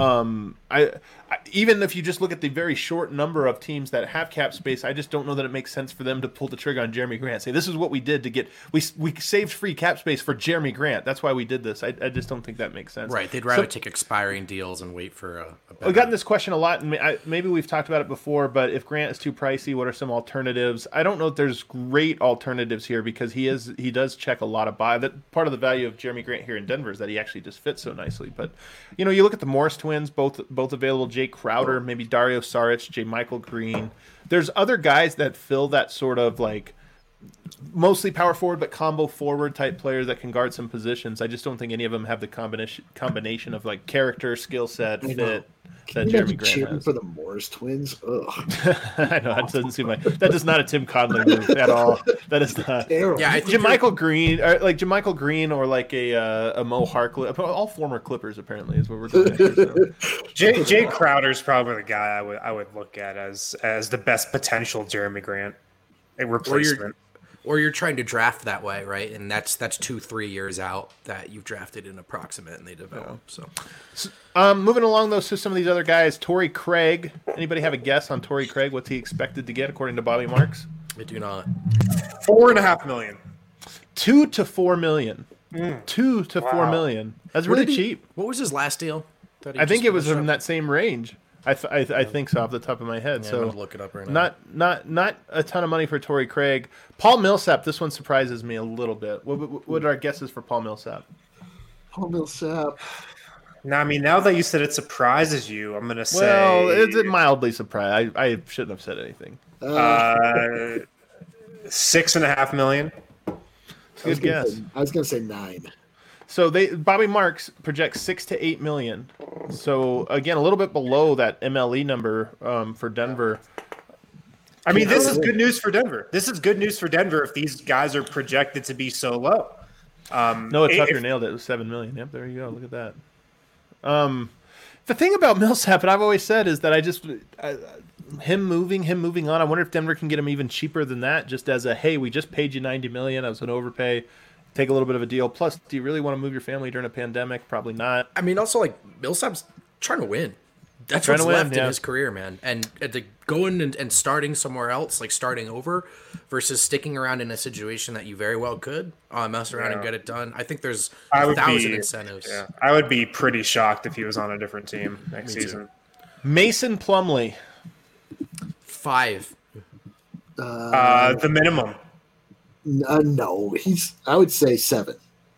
I even if you just look at the very short number of teams that have cap space, I just don't know that it makes sense for them to pull the trigger on Jeremy Grant. Say, this is what we did to get – we saved free cap space for Jeremy Grant. That's why we did this. I just don't think that makes sense. Right. They'd rather take expiring deals and wait for a better – We've gotten this question a lot, and maybe we've talked about it before, but if Grant is too pricey, what are some alternatives? I don't know if there's great alternatives here because he does check a lot of boxes. That part of the value of Jeremy Grant here in Denver is that he actually just fits so nicely. But you look at the Morris twins, both available. Jay Crowder, maybe Dario Saric, J. Michael Green. There's other guys that fill that sort of like mostly power forward but combo forward type players that can guard some positions. I just don't think any of them have the combination of like character, skill set, fit that Jeremy Grant has. For the Morris twins, ugh. I know that doesn't seem like that is not a Tim Conley move at all. That is not. Yeah, JaMychal Green, or like a Mo Harkless, all former Clippers apparently is what we're doing. So. Jay Crowder's probably the guy I would look at as the best potential Jeremy Grant replacement. Or you're trying to draft that way, right? And that's 2-3 years out that you've drafted in approximate and they develop. So moving along though, so some of these other guys, Torrey Craig. Anybody have a guess on Torrey Craig? What's he expected to get according to Bobby Marks? I do not. $4.5 million. $2 to $4 million. $2 to $4 million. That's really cheap. What was his last deal? I think it was in that same range. I think so off the top of my head. Yeah, so I'm gonna look it up right now. Not a ton of money for Torrey Craig. Paul Millsap. This one surprises me a little bit. What are our guesses for Paul Millsap? Paul Millsap. Now, I mean, now that you said it surprises you, I'm gonna say. Well, it's mildly surprised. I shouldn't have said anything. $6.5 million. Good guess. I was gonna say 9. So Bobby Marks projects $6 to $8 million. So again, a little bit below that MLE number for Denver. I mean, this is good news for Denver. This is good news for Denver if these guys are projected to be so low. Noah Tucker nailed it. It was $7 million. Yep, there you go. Look at that. The thing about Millsap, and I've always said, is that him moving on. I wonder if Denver can get him even cheaper than that. Just as a hey, we just paid you $90 million. That was an overpay. Take a little bit of a deal. Plus, do you really want to move your family during a pandemic? Probably not. I mean, also, like, Millsap's trying to win. That's what's left in his career, man. And going and starting somewhere else, like starting over, versus sticking around in a situation that you very well could mess around and get it done. I think there's 1,000 incentives. Yeah, I would be pretty shocked if he was on a different team next season. Mason Plumlee. 5. The minimum. No, I would say 7.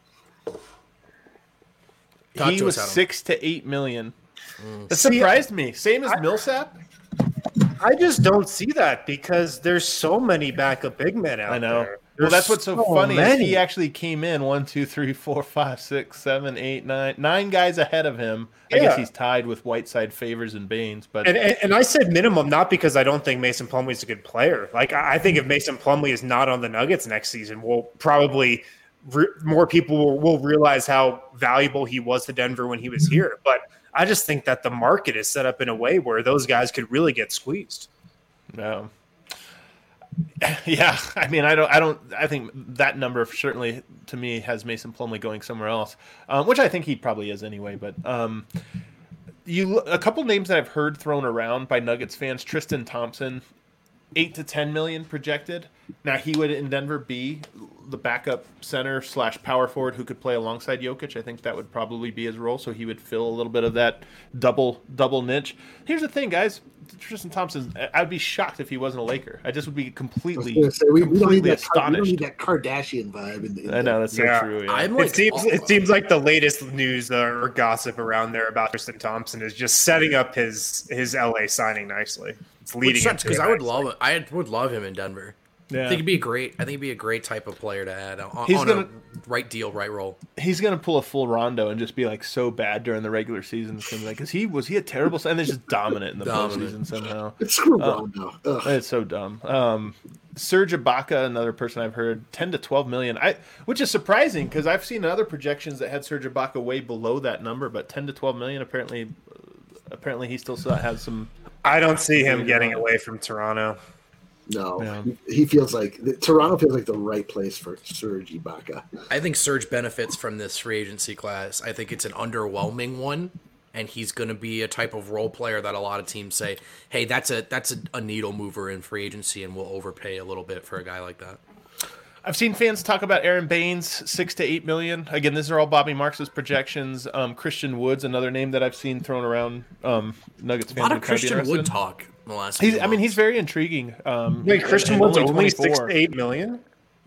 He was $6 to $8 million. That surprised me. Same as Millsap. I just don't see that because there's so many backup big men out there. Well, that's what's so funny. Is he actually came in 1, 2, 3, 4, 5, 6, 7, 8, 9. 9 guys ahead of him. I guess he's tied with Whiteside, Favors, and Baines. But and I said minimum not because I don't think Mason Plumlee is a good player. Like I think if Mason Plumlee is not on the Nuggets next season, we'll probably more people will realize how valuable he was to Denver when he was here. But I just think that the market is set up in a way where those guys could really get squeezed. No. Yeah, I mean, I think that number certainly to me has Mason Plumlee going somewhere else, which I think he probably is anyway. But a couple names that I've heard thrown around by Nuggets fans: Tristan Thompson, $8 to $10 million projected. Now he would in Denver be the backup center / power forward who could play alongside Jokic. I think that would probably be his role, so he would fill a little bit of that double niche. Here's the thing, guys. Tristan Thompson, I'd be shocked if he wasn't a Laker. I just would be completely astonished. We don't need that Kardashian vibe. I know, that's so true. Yeah. It seems like the latest news or gossip around there about Tristan Thompson is just setting up his LA signing nicely. It's leading because I would love him in Denver. Yeah. I think it'd be a great type of player to add on a right deal, right role. He's gonna pull a full Rondo and just be like so bad during the regular season, because he was a terrible, and they're just dominant in the postseason somehow. Screw Rondo. It's so dumb. Serge Ibaka, another person I've heard, $10 to $12 million. Which is surprising because I've seen other projections that had Serge Ibaka way below that number, but $10 to $12 million apparently he still has some. I don't see him getting away from Toronto. No, he feels like Toronto feels like the right place for Serge Ibaka. I think Serge benefits from this free agency class. I think it's an underwhelming one, and he's going to be a type of role player that a lot of teams say, "Hey, that's a needle mover in free agency, and we'll overpay a little bit for a guy like that." I've seen fans talk about Aaron Baines, $6 to $8 million. Again, these are all Bobby Marks' projections. Christian Wood's another name that I've seen thrown around. Nuggets fans. A lot of Christian Wood talk in the last few months. He's very intriguing. Wait, Christian Wood's only $6 to $8 million?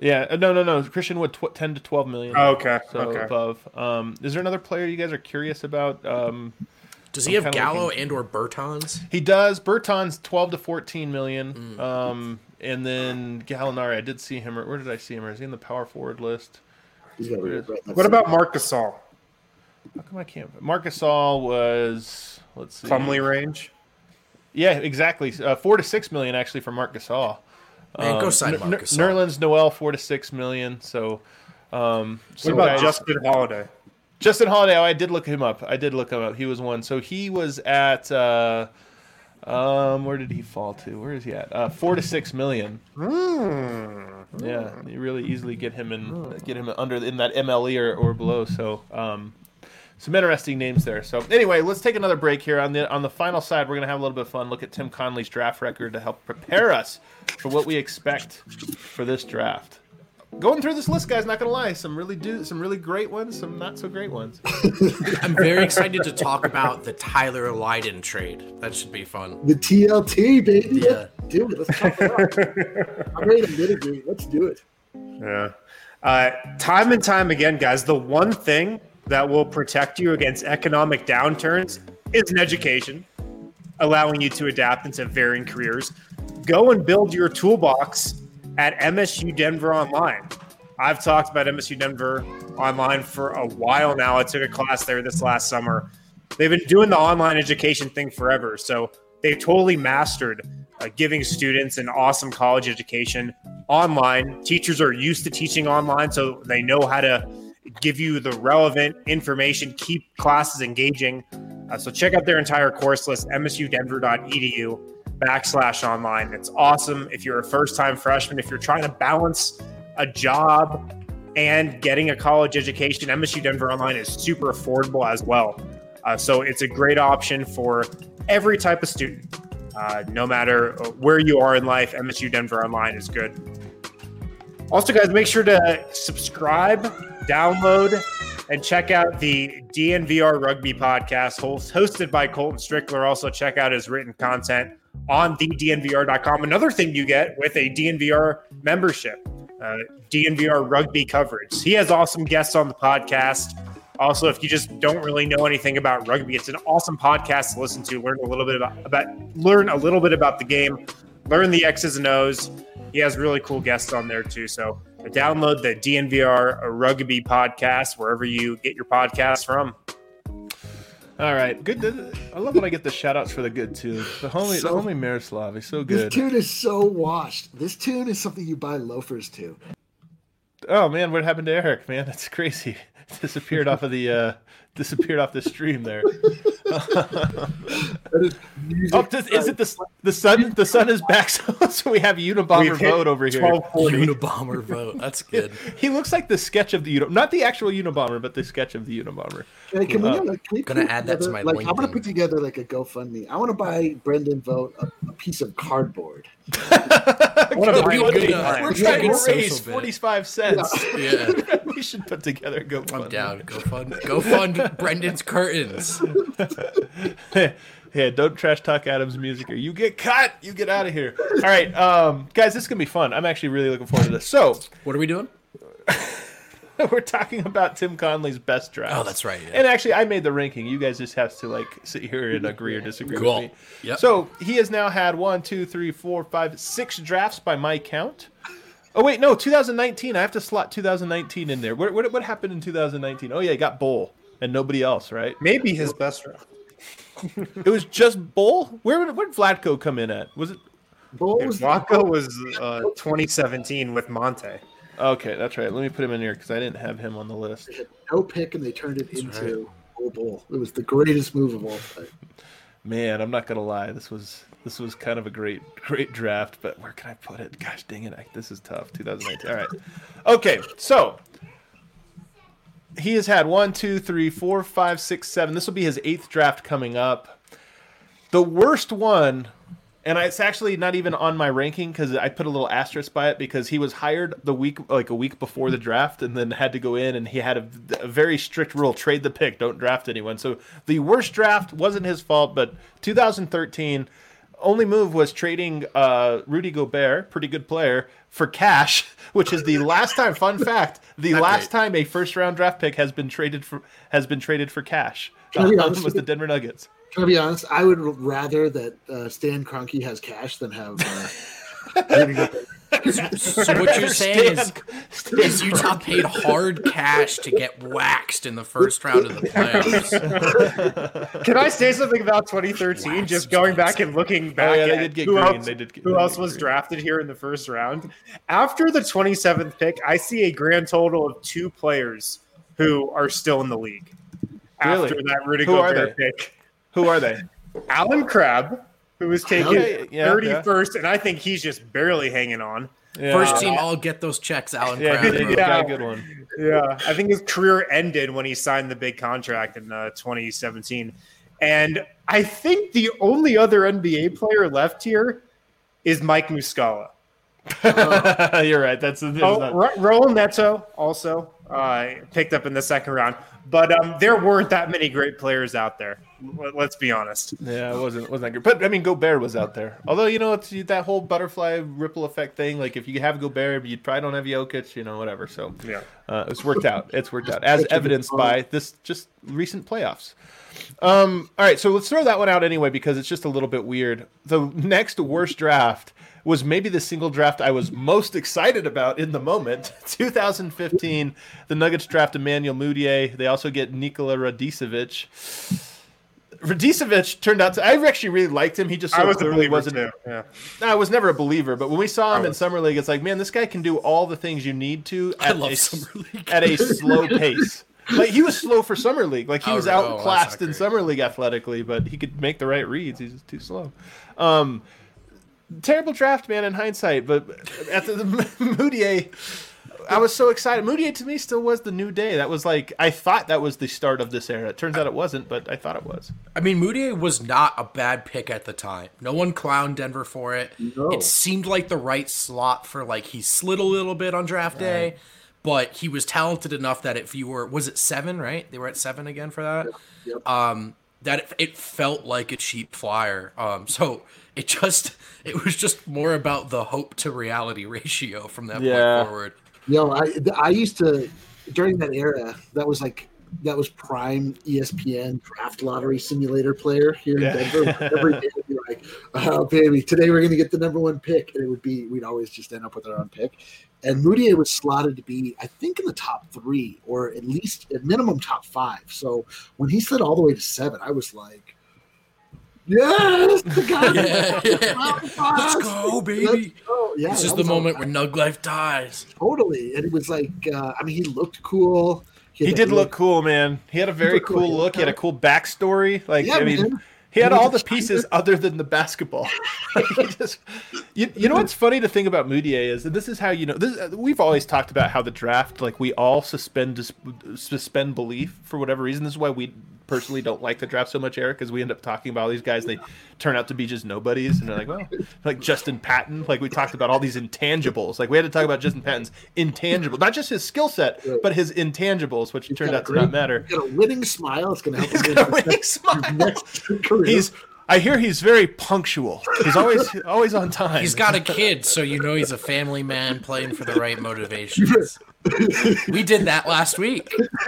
Yeah, no. Christian Wood, 10 to 12 million. Oh, okay. So above. Is there another player you guys are curious about? Does he have Gallo and or Bertans? He does. Bertans 12 to 14 million. And then Gallinari, I did see him. Where did I see him? Is he in the power forward list? What about Marc Gasol? How come I can't? Marc Gasol was, let's see. Plumlee range? Yeah, exactly. 4 to 6 million actually for Marc Gasol. Man, go sign Marc Gasol. Nerlens Noel 4 to 6 million. So, what about Justin Holiday? Justin Holiday, I did look him up. He was one. So he was at where did he fall to? Where is he at? 4 to 6 million. Yeah, you really easily get him under in that MLE or below. So some interesting names there. So anyway, let's take another break here. On the final side, we're gonna have a little bit of fun. Look at Tim Conley's draft record to help prepare us for what we expect for this draft. Going through this list, guys, not gonna lie, some really great ones, some not so great ones. I'm very excited to talk about the Tyler Lydon trade. That should be fun. The TLT, baby. Yeah. Dude, let's talk about it. I'm ready to mitigate. Let's do it. Yeah. Time and time again, guys, the one thing that will protect you against economic downturns is an education, allowing you to adapt into varying careers. Go and build your toolbox at MSU Denver Online. I've talked about MSU Denver Online for a while now. I took a class there this last summer. They've been doing the online education thing forever, so they've totally mastered giving students an awesome college education online. Teachers are used to teaching online, so they know how to give you the relevant information, keep classes engaging. So check out their entire course list, msudenver.edu/online. It's awesome if you're a first-time freshman, if you're trying to balance a job and getting a college education. MSU Denver Online is super affordable as well. So it's a great option for every type of student. No matter where you are in life, MSU Denver Online is good. Also, guys, make sure to subscribe, download, and check out the DNVR Rugby podcast hosted by Colton Strickler. Also, check out his written content on thednvr.com. Another thing you get with a DNVR membership, DNVR Rugby coverage. He has awesome guests on the podcast. Also, if you just don't really know anything about rugby, it's an awesome podcast to listen to. Learn a little bit about the game, learn the X's and O's. He has really cool guests on there too. So download the DNVR Rugby podcast wherever you get your podcasts from. All right, good. I love when I get the shout outs for the good too. The homie Miroslav, he's so good. This tune is so washed. This tune is something you buy loafers to. Oh man, what happened to Eric? Man, that's crazy. Disappeared off the stream there. Is it the sun? The sun is back, so we have Unabomber vote over here. Unabomber vote. That's good. He looks like the sketch of the not the actual Unabomber, but the sketch of the Unabomber. Hey, can we gonna add that to my LinkedIn. I'm gonna put together like a GoFundMe. I want to buy Brendan Vogt a piece of cardboard. We're trying to raise 45 cents. Yeah. We should put together a GoFundMe. I'm down. Go fund Brendan's curtains. Yeah, don't trash talk Adam's music or you get cut. You get out of here. All right, guys, this is gonna be fun. I'm actually really looking forward to this. So, what are we doing? We're talking about Tim Conley's best draft. Oh, that's right. Yeah. And actually, I made the ranking. You guys just have to sit here and agree or disagree with me. Yep. So he has now had 6 drafts by my count. Oh wait, no, 2019. I have to slot 2019 in there. What happened in 2019? Oh yeah, he got Bull and nobody else, right? Maybe his best draft. It was just Bull. Where did Vlatko come in at? Was it? Vlatko was 2017 with Monte. Okay, that's right. Let me put him in here because I didn't have him on the list. They had no pick, and they turned it into Bull. It was the greatest move of all time. Man, I'm not gonna lie. This was kind of a great draft, but where can I put it? Gosh dang it! This is tough. 2019. All right. Okay, so he has had 1, 2, 3, 4, 5, 6, 7. This will be his 8th draft coming up. The worst one. And it's actually not even on my ranking because I put a little asterisk by it because he was hired a week before the draft and then had to go in and he had a very strict rule: trade the pick, don't draft anyone. So the worst draft wasn't his fault, but 2013, only move was trading Rudy Gobert, pretty good player, for cash, which is the last time. Fun fact: the last time a first-round draft pick has been traded for cash was the Denver Nuggets. Can I be honest? I would rather that Stan Kroenke has cash than have. Rudy Gobert. So what you're saying is Utah paid hard cash to get waxed in the first round of the playoffs. Can I say something about 2013? Just going back and looking back at who else was drafted here in the first round. After the 27th pick, I see a grand total of 2 players who are still in the league. Really? After that Rudy Gobert pick. Who are they? Alan Crabb, who was taken 31st, and I think he's just barely hanging on. Yeah. First team all get those checks, Alan Crabb. Yeah, good one. Yeah, I think his career ended when he signed the big contract in 2017. And I think the only other NBA player left here is Mike Muscala. You're right. That's Raul Neto also picked up in the second round. But there weren't that many great players out there. Let's be honest. Yeah, it wasn't that good. But I mean, Gobert was out there. Although it's that whole butterfly ripple effect thing. Like if you have Gobert, you probably don't have Jokic. Whatever. So yeah, it's worked out. It's worked out as evidenced by this just recent playoffs. All right, so let's throw that one out anyway because it's just a little bit weird. The next worst draft was maybe the single draft I was most excited about in the moment. 2015, the Nuggets draft Emmanuel Mudiay. They also get Nikola Radicevic. Radicevic turned out to... I actually really liked him. He just clearly wasn't... Yeah. I was never a believer, but when we saw him in Summer League, it's like, man, this guy can do all the things you need to at a slow pace. Like he was slow for Summer League. Like he was outclassed in Summer League athletically, but he could make the right reads. He's just too slow. Terrible draft, man, in hindsight. But at the Mudiay, I was so excited. Mudiay to me still was the new day. That was like I thought that was the start of this era. It turns out it wasn't, but I thought it was. I mean, Mudiay was not a bad pick at the time. No one clowned Denver for it. No. It seemed like the right slot for he slid a little bit on draft day. But he was talented enough that if you were, was it 7, right? They were at 7 again for that. Yep. That it felt like a cheap flyer. So it was just more about the hope to reality ratio from that point forward. I used to, during that era, that was prime ESPN draft lottery simulator player here in Denver. Every day would be like, oh baby, today we're going to get the number 1 pick. And we'd always just end up with our own pick. And Mudiay was slotted to be, I think, in the top 3 or at least at minimum top 5. So when he slid all the way to 7, I was like, yes, the guy. Let's go, baby. Let's go. Yeah, this is the moment where Nug Life dies. Totally. And it was like, he looked cool. He did look cool, man. He had a very cool look. He had a cool backstory. He had all the pieces other than the basketball. You know what's funny to think about Mudiay is, and this is how we've always talked about how the draft, we all suspend belief for whatever reason. This is why we personally don't like the draft so much, Eric, because we end up talking about all these guys, they turn out to be just nobodies, and they're like, well, like Justin Patton, we talked about all these intangibles. We had to talk about Justin Patton's intangibles, not just his skill set, but his intangibles, which turned out to not matter. He's got a winning smile. It's going to help him. He's got a winning smile. I hear he's very punctual. He's always on time. He's got a kid, so he's a family man playing for the right motivations. We did that last week.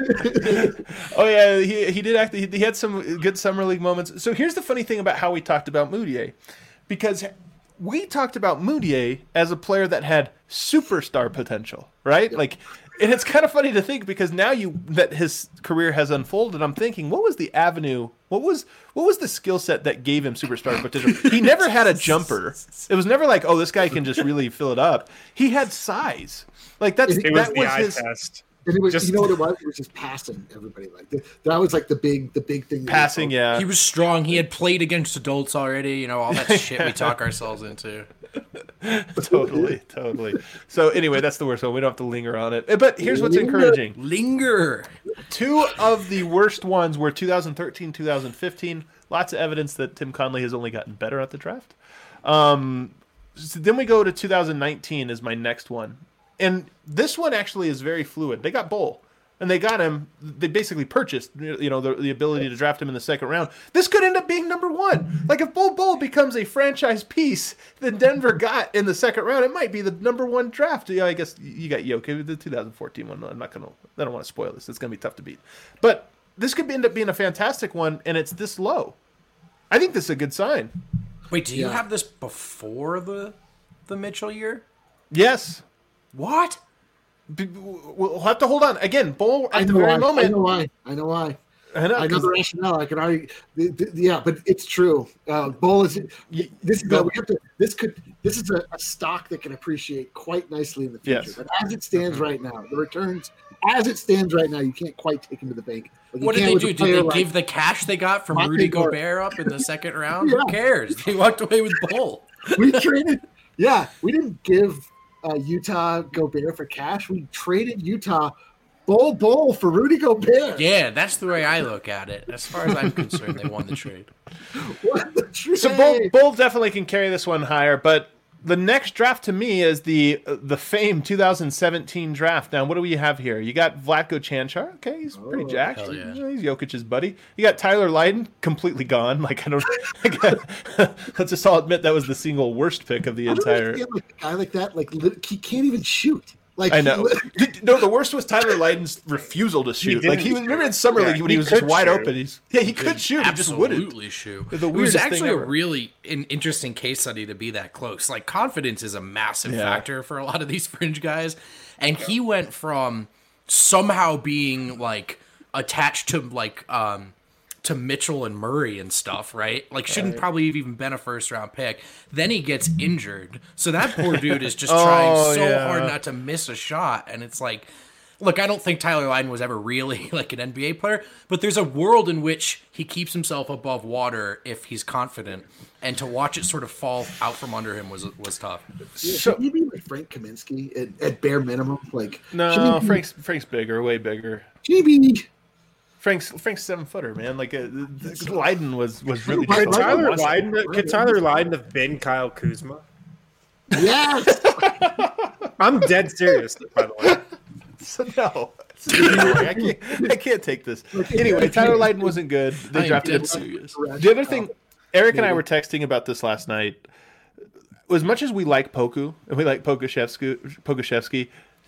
Oh yeah, he did he had some good summer league moments. So here's the funny thing about how we talked about Mudiay, because we talked about Mudiay as a player that had superstar potential, right? And it's kind of funny to think, because now that his career has unfolded, I'm thinking, what was the avenue? What was the skill set that gave him superstar potential? He never had a jumper. It was never like, oh, this guy can just really fill it up. He had size. That was his test. And it was, you know what it was? It was just passing everybody. That was the big thing. Passing, yeah. He was strong. He had played against adults already. All that shit we talk ourselves into. Totally. So anyway, that's the worst one. We don't have to linger on it. But here's what's encouraging. Linger. 2 of the worst ones were 2013, 2015. Lots of evidence that Tim Conley has only gotten better at the draft. So then we go to 2019 is my next one. And this one actually is very fluid. They got Bull. and they got him. They basically purchased, the ability to draft him in the second round. This could end up being number one. Like if Bol Bol becomes a franchise piece that Denver got in the second round, it might be the number one draft. Yeah, I guess you got Jokic, the 2014 one. I don't want to spoil this. It's going to be tough to beat. But this could end up being a fantastic one, and it's this low. I think this is a good sign. Wait, do you have this before the Mitchell year? Yes. What? We'll have to hold on. Again, Bol at the very moment. I know why. I know the rationale. I can argue. Yeah, but it's true. Bol is this is a stock that can appreciate quite nicely in the future. Yes. But as it stands right now, the returns as it stands right now, you can't quite take them to the bank. What did they do? Did they give the cash they got from Rudy Gobert up in the second round? Yeah. Who cares? They walked away with Bol. We traded. Yeah, we didn't give Utah Gobert for cash. We traded Utah Bol for Rudy Gobert. Yeah, that's the way I look at it. As far as I'm concerned, they won the trade. What the trade? So Bol definitely can carry this one higher, but the next draft to me is the famed 2017 draft. Now, what do we have here? You got Vlatko Cancar. Okay, he's pretty jacked. Yeah. He's Jokic's buddy. You got Tyler Lydon, completely gone. Like let's just all admit that was the single worst pick of the entire. A guy like that, he can't even shoot. I know. No, the worst was Tyler Lydon's refusal to shoot. Remember in summer league when he was just wide open. He could shoot. He just wouldn't. Absolutely shoot. It was actually a really interesting case study to be that close. Like confidence is a massive factor for a lot of these fringe guys, and he went from somehow being like attached to to Mitchell and Murray and stuff, right? Like shouldn't probably have even been a first round pick. Then he gets injured. So that poor dude is just trying hard not to miss a shot. And it's like, look, I don't think Tyler Lydon was ever really like an NBA player, but there's a world in which he keeps himself above water if he's confident. And to watch it sort of fall out from under him was tough. Yeah, should he be like Frank Kaminsky at bare minimum? No, Frank's bigger, way bigger. GB. Frank's 7-footer, man. Lydon was really. Could Tyler Lydon have been Kyle Kuzma? Yes. I'm dead serious, by the way. So no, I can't take this. Anyway, Tyler Lydon wasn't good. They drafted him. The other thing, Eric and I were texting about this last night. As much as we like Poku and we like Pokusevski,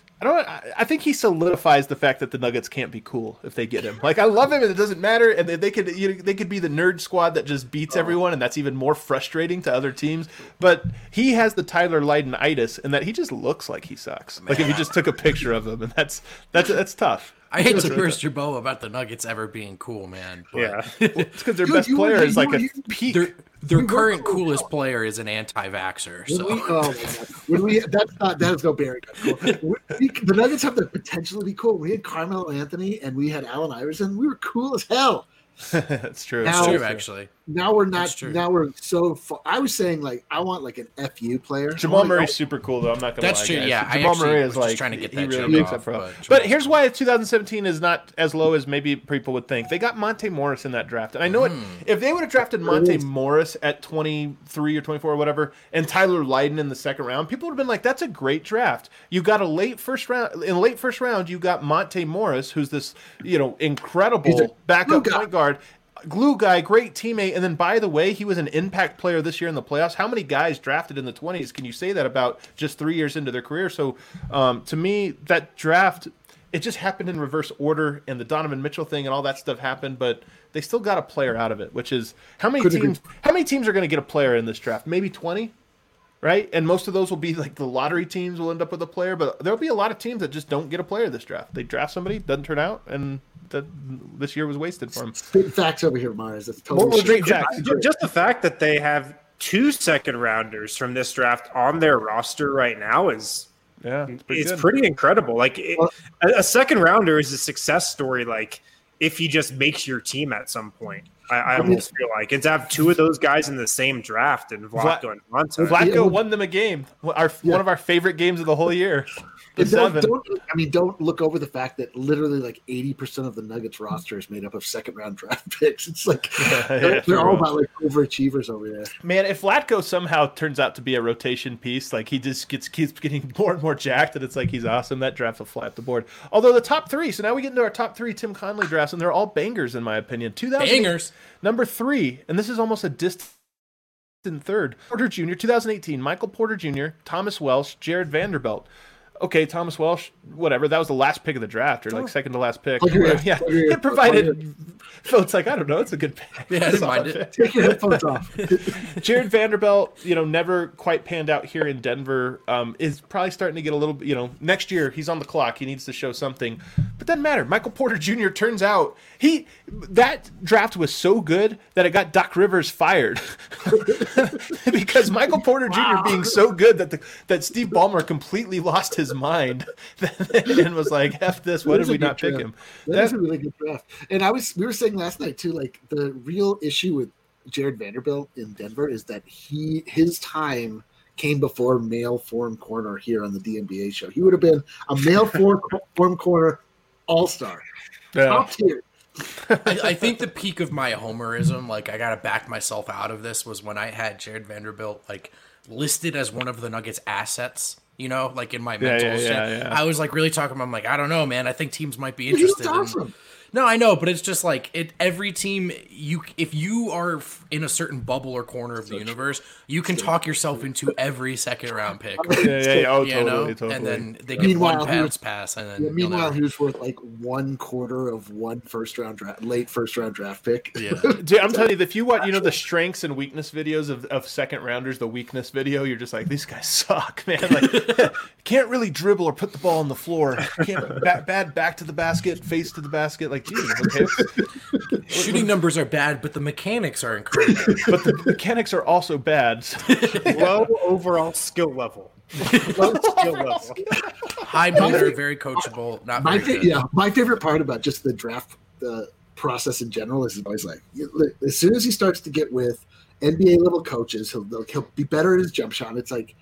I think he solidifies the fact that the Nuggets can't be cool if they get him. Like I love him, and it doesn't matter. And they could be the nerd squad that just beats everyone, and that's even more frustrating to other teams. But he has the Tyler Lydon-itis, and that he just looks like he sucks. Man. Like if you just took a picture of him, and that's tough. I hate to burst your bubble about the Nuggets ever being cool, man. But it's because their best player is like a peak. Their current coolest player is an anti-vaxxer. So. That's no bearing. Cool. The Nuggets have the potential to be cool. We had Carmelo Anthony and we had Allen Iverson. We were cool as hell. That's true. That's true, actually. Now we're not. Now we're so far. I was saying I want an FU player. Jamal Murray's super cool though. I'm not gonna lie. That's true. Guys. Yeah, Jamal Murray is just trying to get that really joke off. But here's why 2017 is not as low as maybe people would think. They got Monte Morris in that draft, and I know if they would have drafted Monte Morris at 23 or 24 or whatever, and Tyler Lydon in the second round, people would have been like, "That's a great draft." You got a late first round. You got Monte Morris, who's this incredible backup point guard. Glue guy, great teammate, and then by the way, he was an impact player this year in the playoffs. How many guys drafted in the 20s can you say that about just 3 years into their career? So to me, that draft, it just happened in reverse order, and the Donovan Mitchell thing and all that stuff happened, but they still got a player out of it, which is how many teams are going to get a player in this draft? Maybe 20? Right? And most of those will be like the lottery teams will end up with a player, but there'll be a lot of teams that just don't get a player this draft. They draft somebody, doesn't turn out, and this year was wasted for them. Big facts over here, Mars. That's totally just the fact that they have 2 second-rounders from this draft on their roster right now is pretty incredible. A second-rounder is a success story, if he just makes your team at some point. I almost feel like it's have two of those guys in the same draft, and Vlatko and Monta. Vlatko won them a game. One of our favorite games of the whole year. Don't look over the fact that literally like 80% of the Nuggets roster is made up of second-round draft picks. It's like they're all about like overachievers over there. Man, if Vlatko somehow turns out to be a rotation piece, like he just keeps getting more and more jacked, and it's like he's awesome, that draft will fly up the board. Although the top three, so now we get into our top three Tim Connelly drafts, and they're all bangers in my opinion. Bangers. Number 3, and this is almost a distant third. Porter Jr., 2018, Michael Porter Jr., Thomas Welsh, Jared Vanderbilt. Okay, Thomas Welsh, whatever. That was the last pick of the draft, or like second to last pick. It provided. So it's like, I don't know. It's a good pick. Yeah, I didn't mind it. Take your headphones off. Jared Vanderbilt, never quite panned out here in Denver. Is probably starting to get a little. Next year he's on the clock. He needs to show something. But doesn't matter. Michael Porter Jr. turns out that draft was so good that it got Doc Rivers fired because Michael Porter Jr. being so good that Steve Ballmer completely lost his mind and was like, "F this! Why did we not pick him?" That's a really good draft. And we were saying last night too, like the real issue with Jared Vanderbilt in Denver is that his time came before male form corner here on the DNBA show. He would have been a male form corner all-star, top tier. I think the peak of my homerism, like I gotta back myself out of this, was when I had Jared Vanderbilt like listed as one of the Nuggets' assets. Like in my mental shit. I was like really talking about, I'm like, I don't know, man. I think teams might be interested. Awesome. No, I know, but it's just like every team, if you are in a certain bubble or corner of the universe, you can talk yourself into every second round pick. Totally. And then they get one pass, and then meanwhile, he was worth like 1/4 of one late first round draft pick. Yeah, dude, I'm telling you, if you watch, the strengths and weakness videos of second rounders, the weakness video, you're just like, these guys suck, man. Like, can't really dribble or put the ball on the floor. Can't bad back to the basket, face to the basket. Like, geez, okay. Shooting numbers are bad, but the mechanics are incredible. But the mechanics are also bad. Low overall skill level. High motor, very coachable. Not very good. Yeah, my favorite part about just the draft process in general is always like, as soon as he starts to get with NBA level coaches, he'll be better at his jump shot. It's like,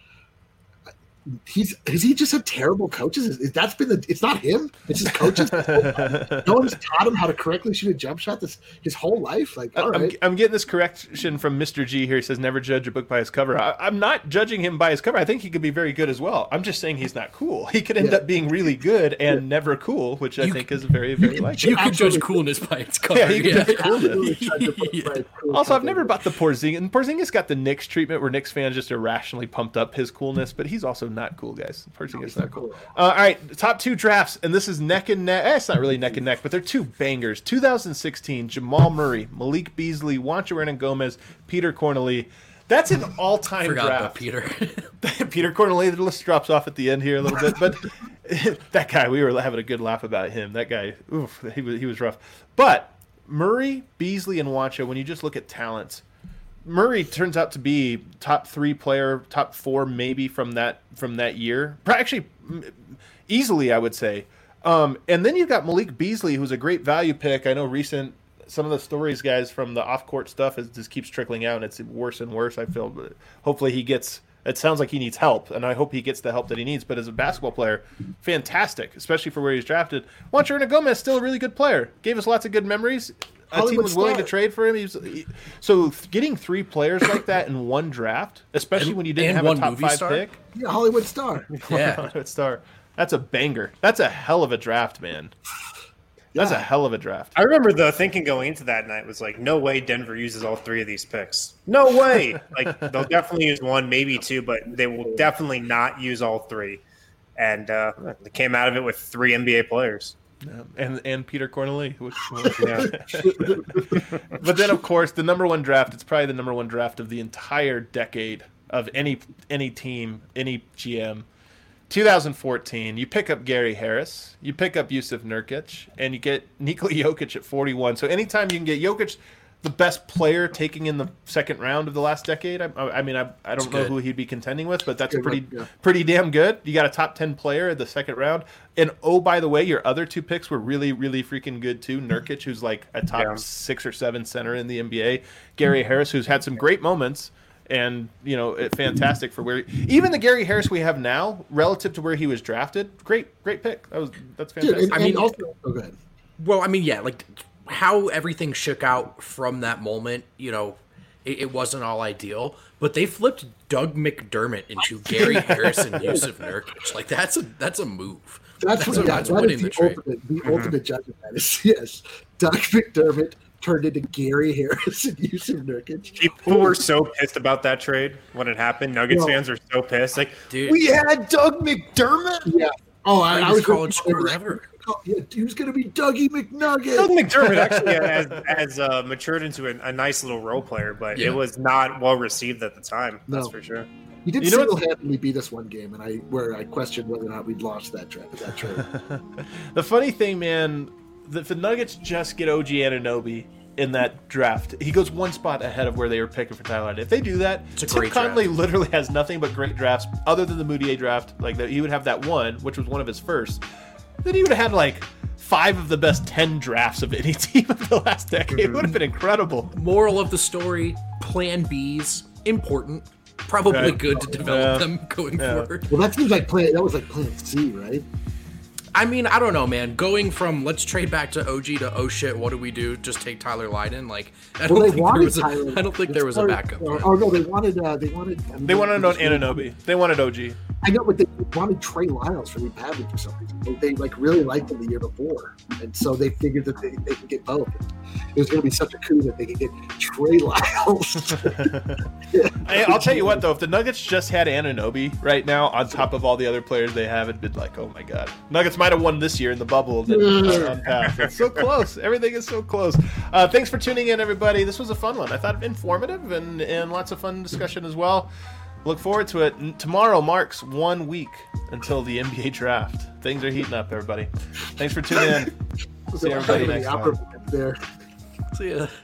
has he just had terrible coaches? It's not him. It's his coaches. No one's taught him how to correctly shoot a jump shot his whole life. Like, all right. I'm getting this correction from Mr. G here. He says, never judge a book by his cover. I'm not judging him by his cover. I think he could be very good as well. I'm just saying he's not cool. He could end up being really good and never cool, which I think is very, very likely. You could judge coolness by its cover. Yeah, you could judge coolness. Also, I've never bought the Porzingis. And Porzingis got the Knicks treatment where Knicks fans just irrationally pumped up his coolness, but he's also not cool, guys. Porzingis not cool. All right, top 2 drafts, and this is neck and neck. It's not really neck and neck, but they're 2 bangers. 2016, Jamal Murray, Malik Beasley, Juancho Hernangomez, Peter Cornely. That's an all-time Forgot draft. about Peter. Peter Cornely, the list drops off at the end here a little bit, but that guy, we were having a good laugh about him. That guy, oof, he was rough. But Murray, Beasley, and Juancho, when you just look at talents, Murray turns out to be top 3 player, top 4 maybe from that year. Actually, easily, I would say. And then you've got Malik Beasley, who's a great value pick. I know some of the stories, guys, from the off-court stuff just keeps trickling out, and it's worse and worse, I feel. But hopefully it sounds like he needs help, and I hope he gets the help that he needs. But as a basketball player, fantastic, especially for where he's drafted. Juancho Hernangomez is still a really good player. Gave us lots of good memories. A team was willing to trade for him. So getting 3 players like that in one draft, especially when you didn't have a top 5 pick. Yeah, Hollywood star. Yeah, Hollywood star. That's a banger. That's a hell of a draft, man. That's a hell of a draft. I remember the thinking going into that night was like, no way Denver uses all 3 of these picks. No way. Like, they'll definitely use 1, maybe 2, but they will definitely not use all 3. And they came out of it with 3 NBA players. Yeah, and Peter Cornely. But then, of course, the number 1 draft, it's probably the number 1 draft of the entire decade of any team, any GM. 2014, you pick up Gary Harris, you pick up Yusuf Nurkic, and you get Nikola Jokic at 41. So anytime you can get Jokic, the best player taking in the second round of the last decade. I don't know who he'd be contending with, but that's pretty damn good. You got a top 10 player in the second round. And oh, by the way, your other two picks were really, really freaking good too. Nurkic, who's like a top 6 or 7 center in the NBA. Gary Harris, who's had some great moments. And, fantastic for even the Gary Harris we have now, relative to where he was drafted, great pick. That's fantastic. Go ahead. Well, like how everything shook out from that moment, it wasn't all ideal, but they flipped Doug McDermott into Gary Harris and Yusuf Nurkic. Like that's a move. That's winning the trade. The ultimate judgment that is, yes, Doug McDermott turned into Gary Harris and Yusuf Nurkic. People were so pissed about that trade when it happened. Nuggets fans are so pissed. Like, dude, we had Doug McDermott. Yeah. Oh, I was college forever. Yeah, he was going to be Dougie McNugget. Doug McDermott actually has matured into a nice little role player, but it was not well received at the time. That's for sure. He did single-handedly beat us one game, and I questioned whether or not we'd lost that trade. The funny thing, man, if the Nuggets just get OG Anunoby in that draft, he goes one spot ahead of where they were picking for Tyler. If they do that, Tim Connolly literally has nothing but great drafts other than the Moutier draft. Like that, he would have that one, which was one of his first. Then he would have had like 5 of the best 10 drafts of any team of the last decade. It would have been incredible. Moral of the story: Plan B's important. Probably good to develop them going forward. Well, that seems like Plan C, right? I don't know, man. Going from let's trade back to OG to oh shit, what do we do? Just take Tyler Lydon? Like I don't think there was a backup. Oh no, they wanted Anunoby. They wanted OG. I know, but they wanted Trey Lyles for Lee Pavlik for some reason. They really liked him the year before, and so they figured that they could get both. It was going to be such a coup that they could get Trey Lyles. I'll tell you what, though, if the Nuggets just had Anunoby right now on top of all the other players they have, it'd be like, oh my god, Nuggets might have won this year in the bubble. It's so close. Everything is so close. Thanks for tuning in, everybody. This was a fun one. I thought informative and lots of fun discussion as well. Look forward to it. Tomorrow marks 1 week until the NBA draft. Things are heating up, everybody. Thanks for tuning in. See everybody next time. See ya.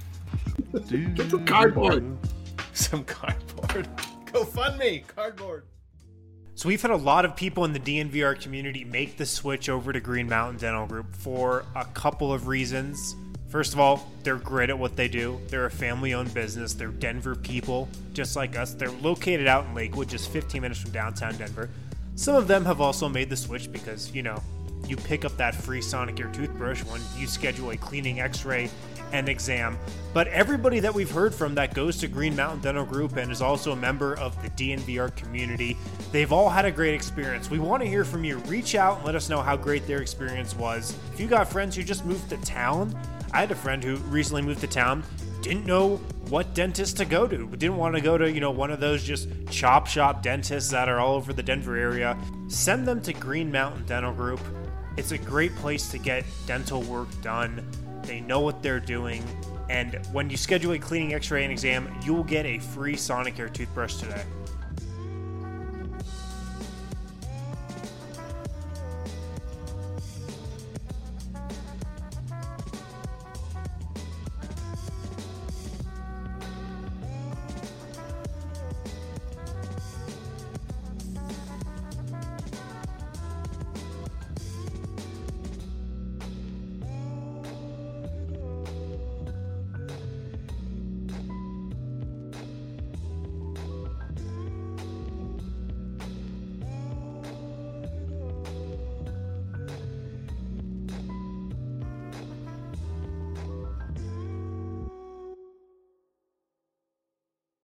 Get some cardboard. Some cardboard. Go fund me. Cardboard. So we've had a lot of people in the DNVR community make the switch over to Green Mountain Dental Group for a couple of reasons. First of all, they're great at what they do. They're a family-owned business. They're Denver people, just like us. They're located out in Lakewood, just 15 minutes from downtown Denver. Some of them have also made the switch because, you pick up that free Sonicare toothbrush when you schedule a cleaning, x-ray, and exam. But everybody that we've heard from that goes to Green Mountain Dental Group and is also a member of the DNVR community, they've all had a great experience. We want to hear from you. Reach out and let us know how great their experience was. If you got friends who just moved to town, I had a friend who recently moved to town, didn't know what dentist to go to, didn't want to go to, one of those just chop shop dentists that are all over the Denver area. Send them to Green Mountain Dental Group. It's a great place to get dental work done. They know what they're doing. And when you schedule a cleaning, x-ray, and exam, you will get a free Sonicare toothbrush today.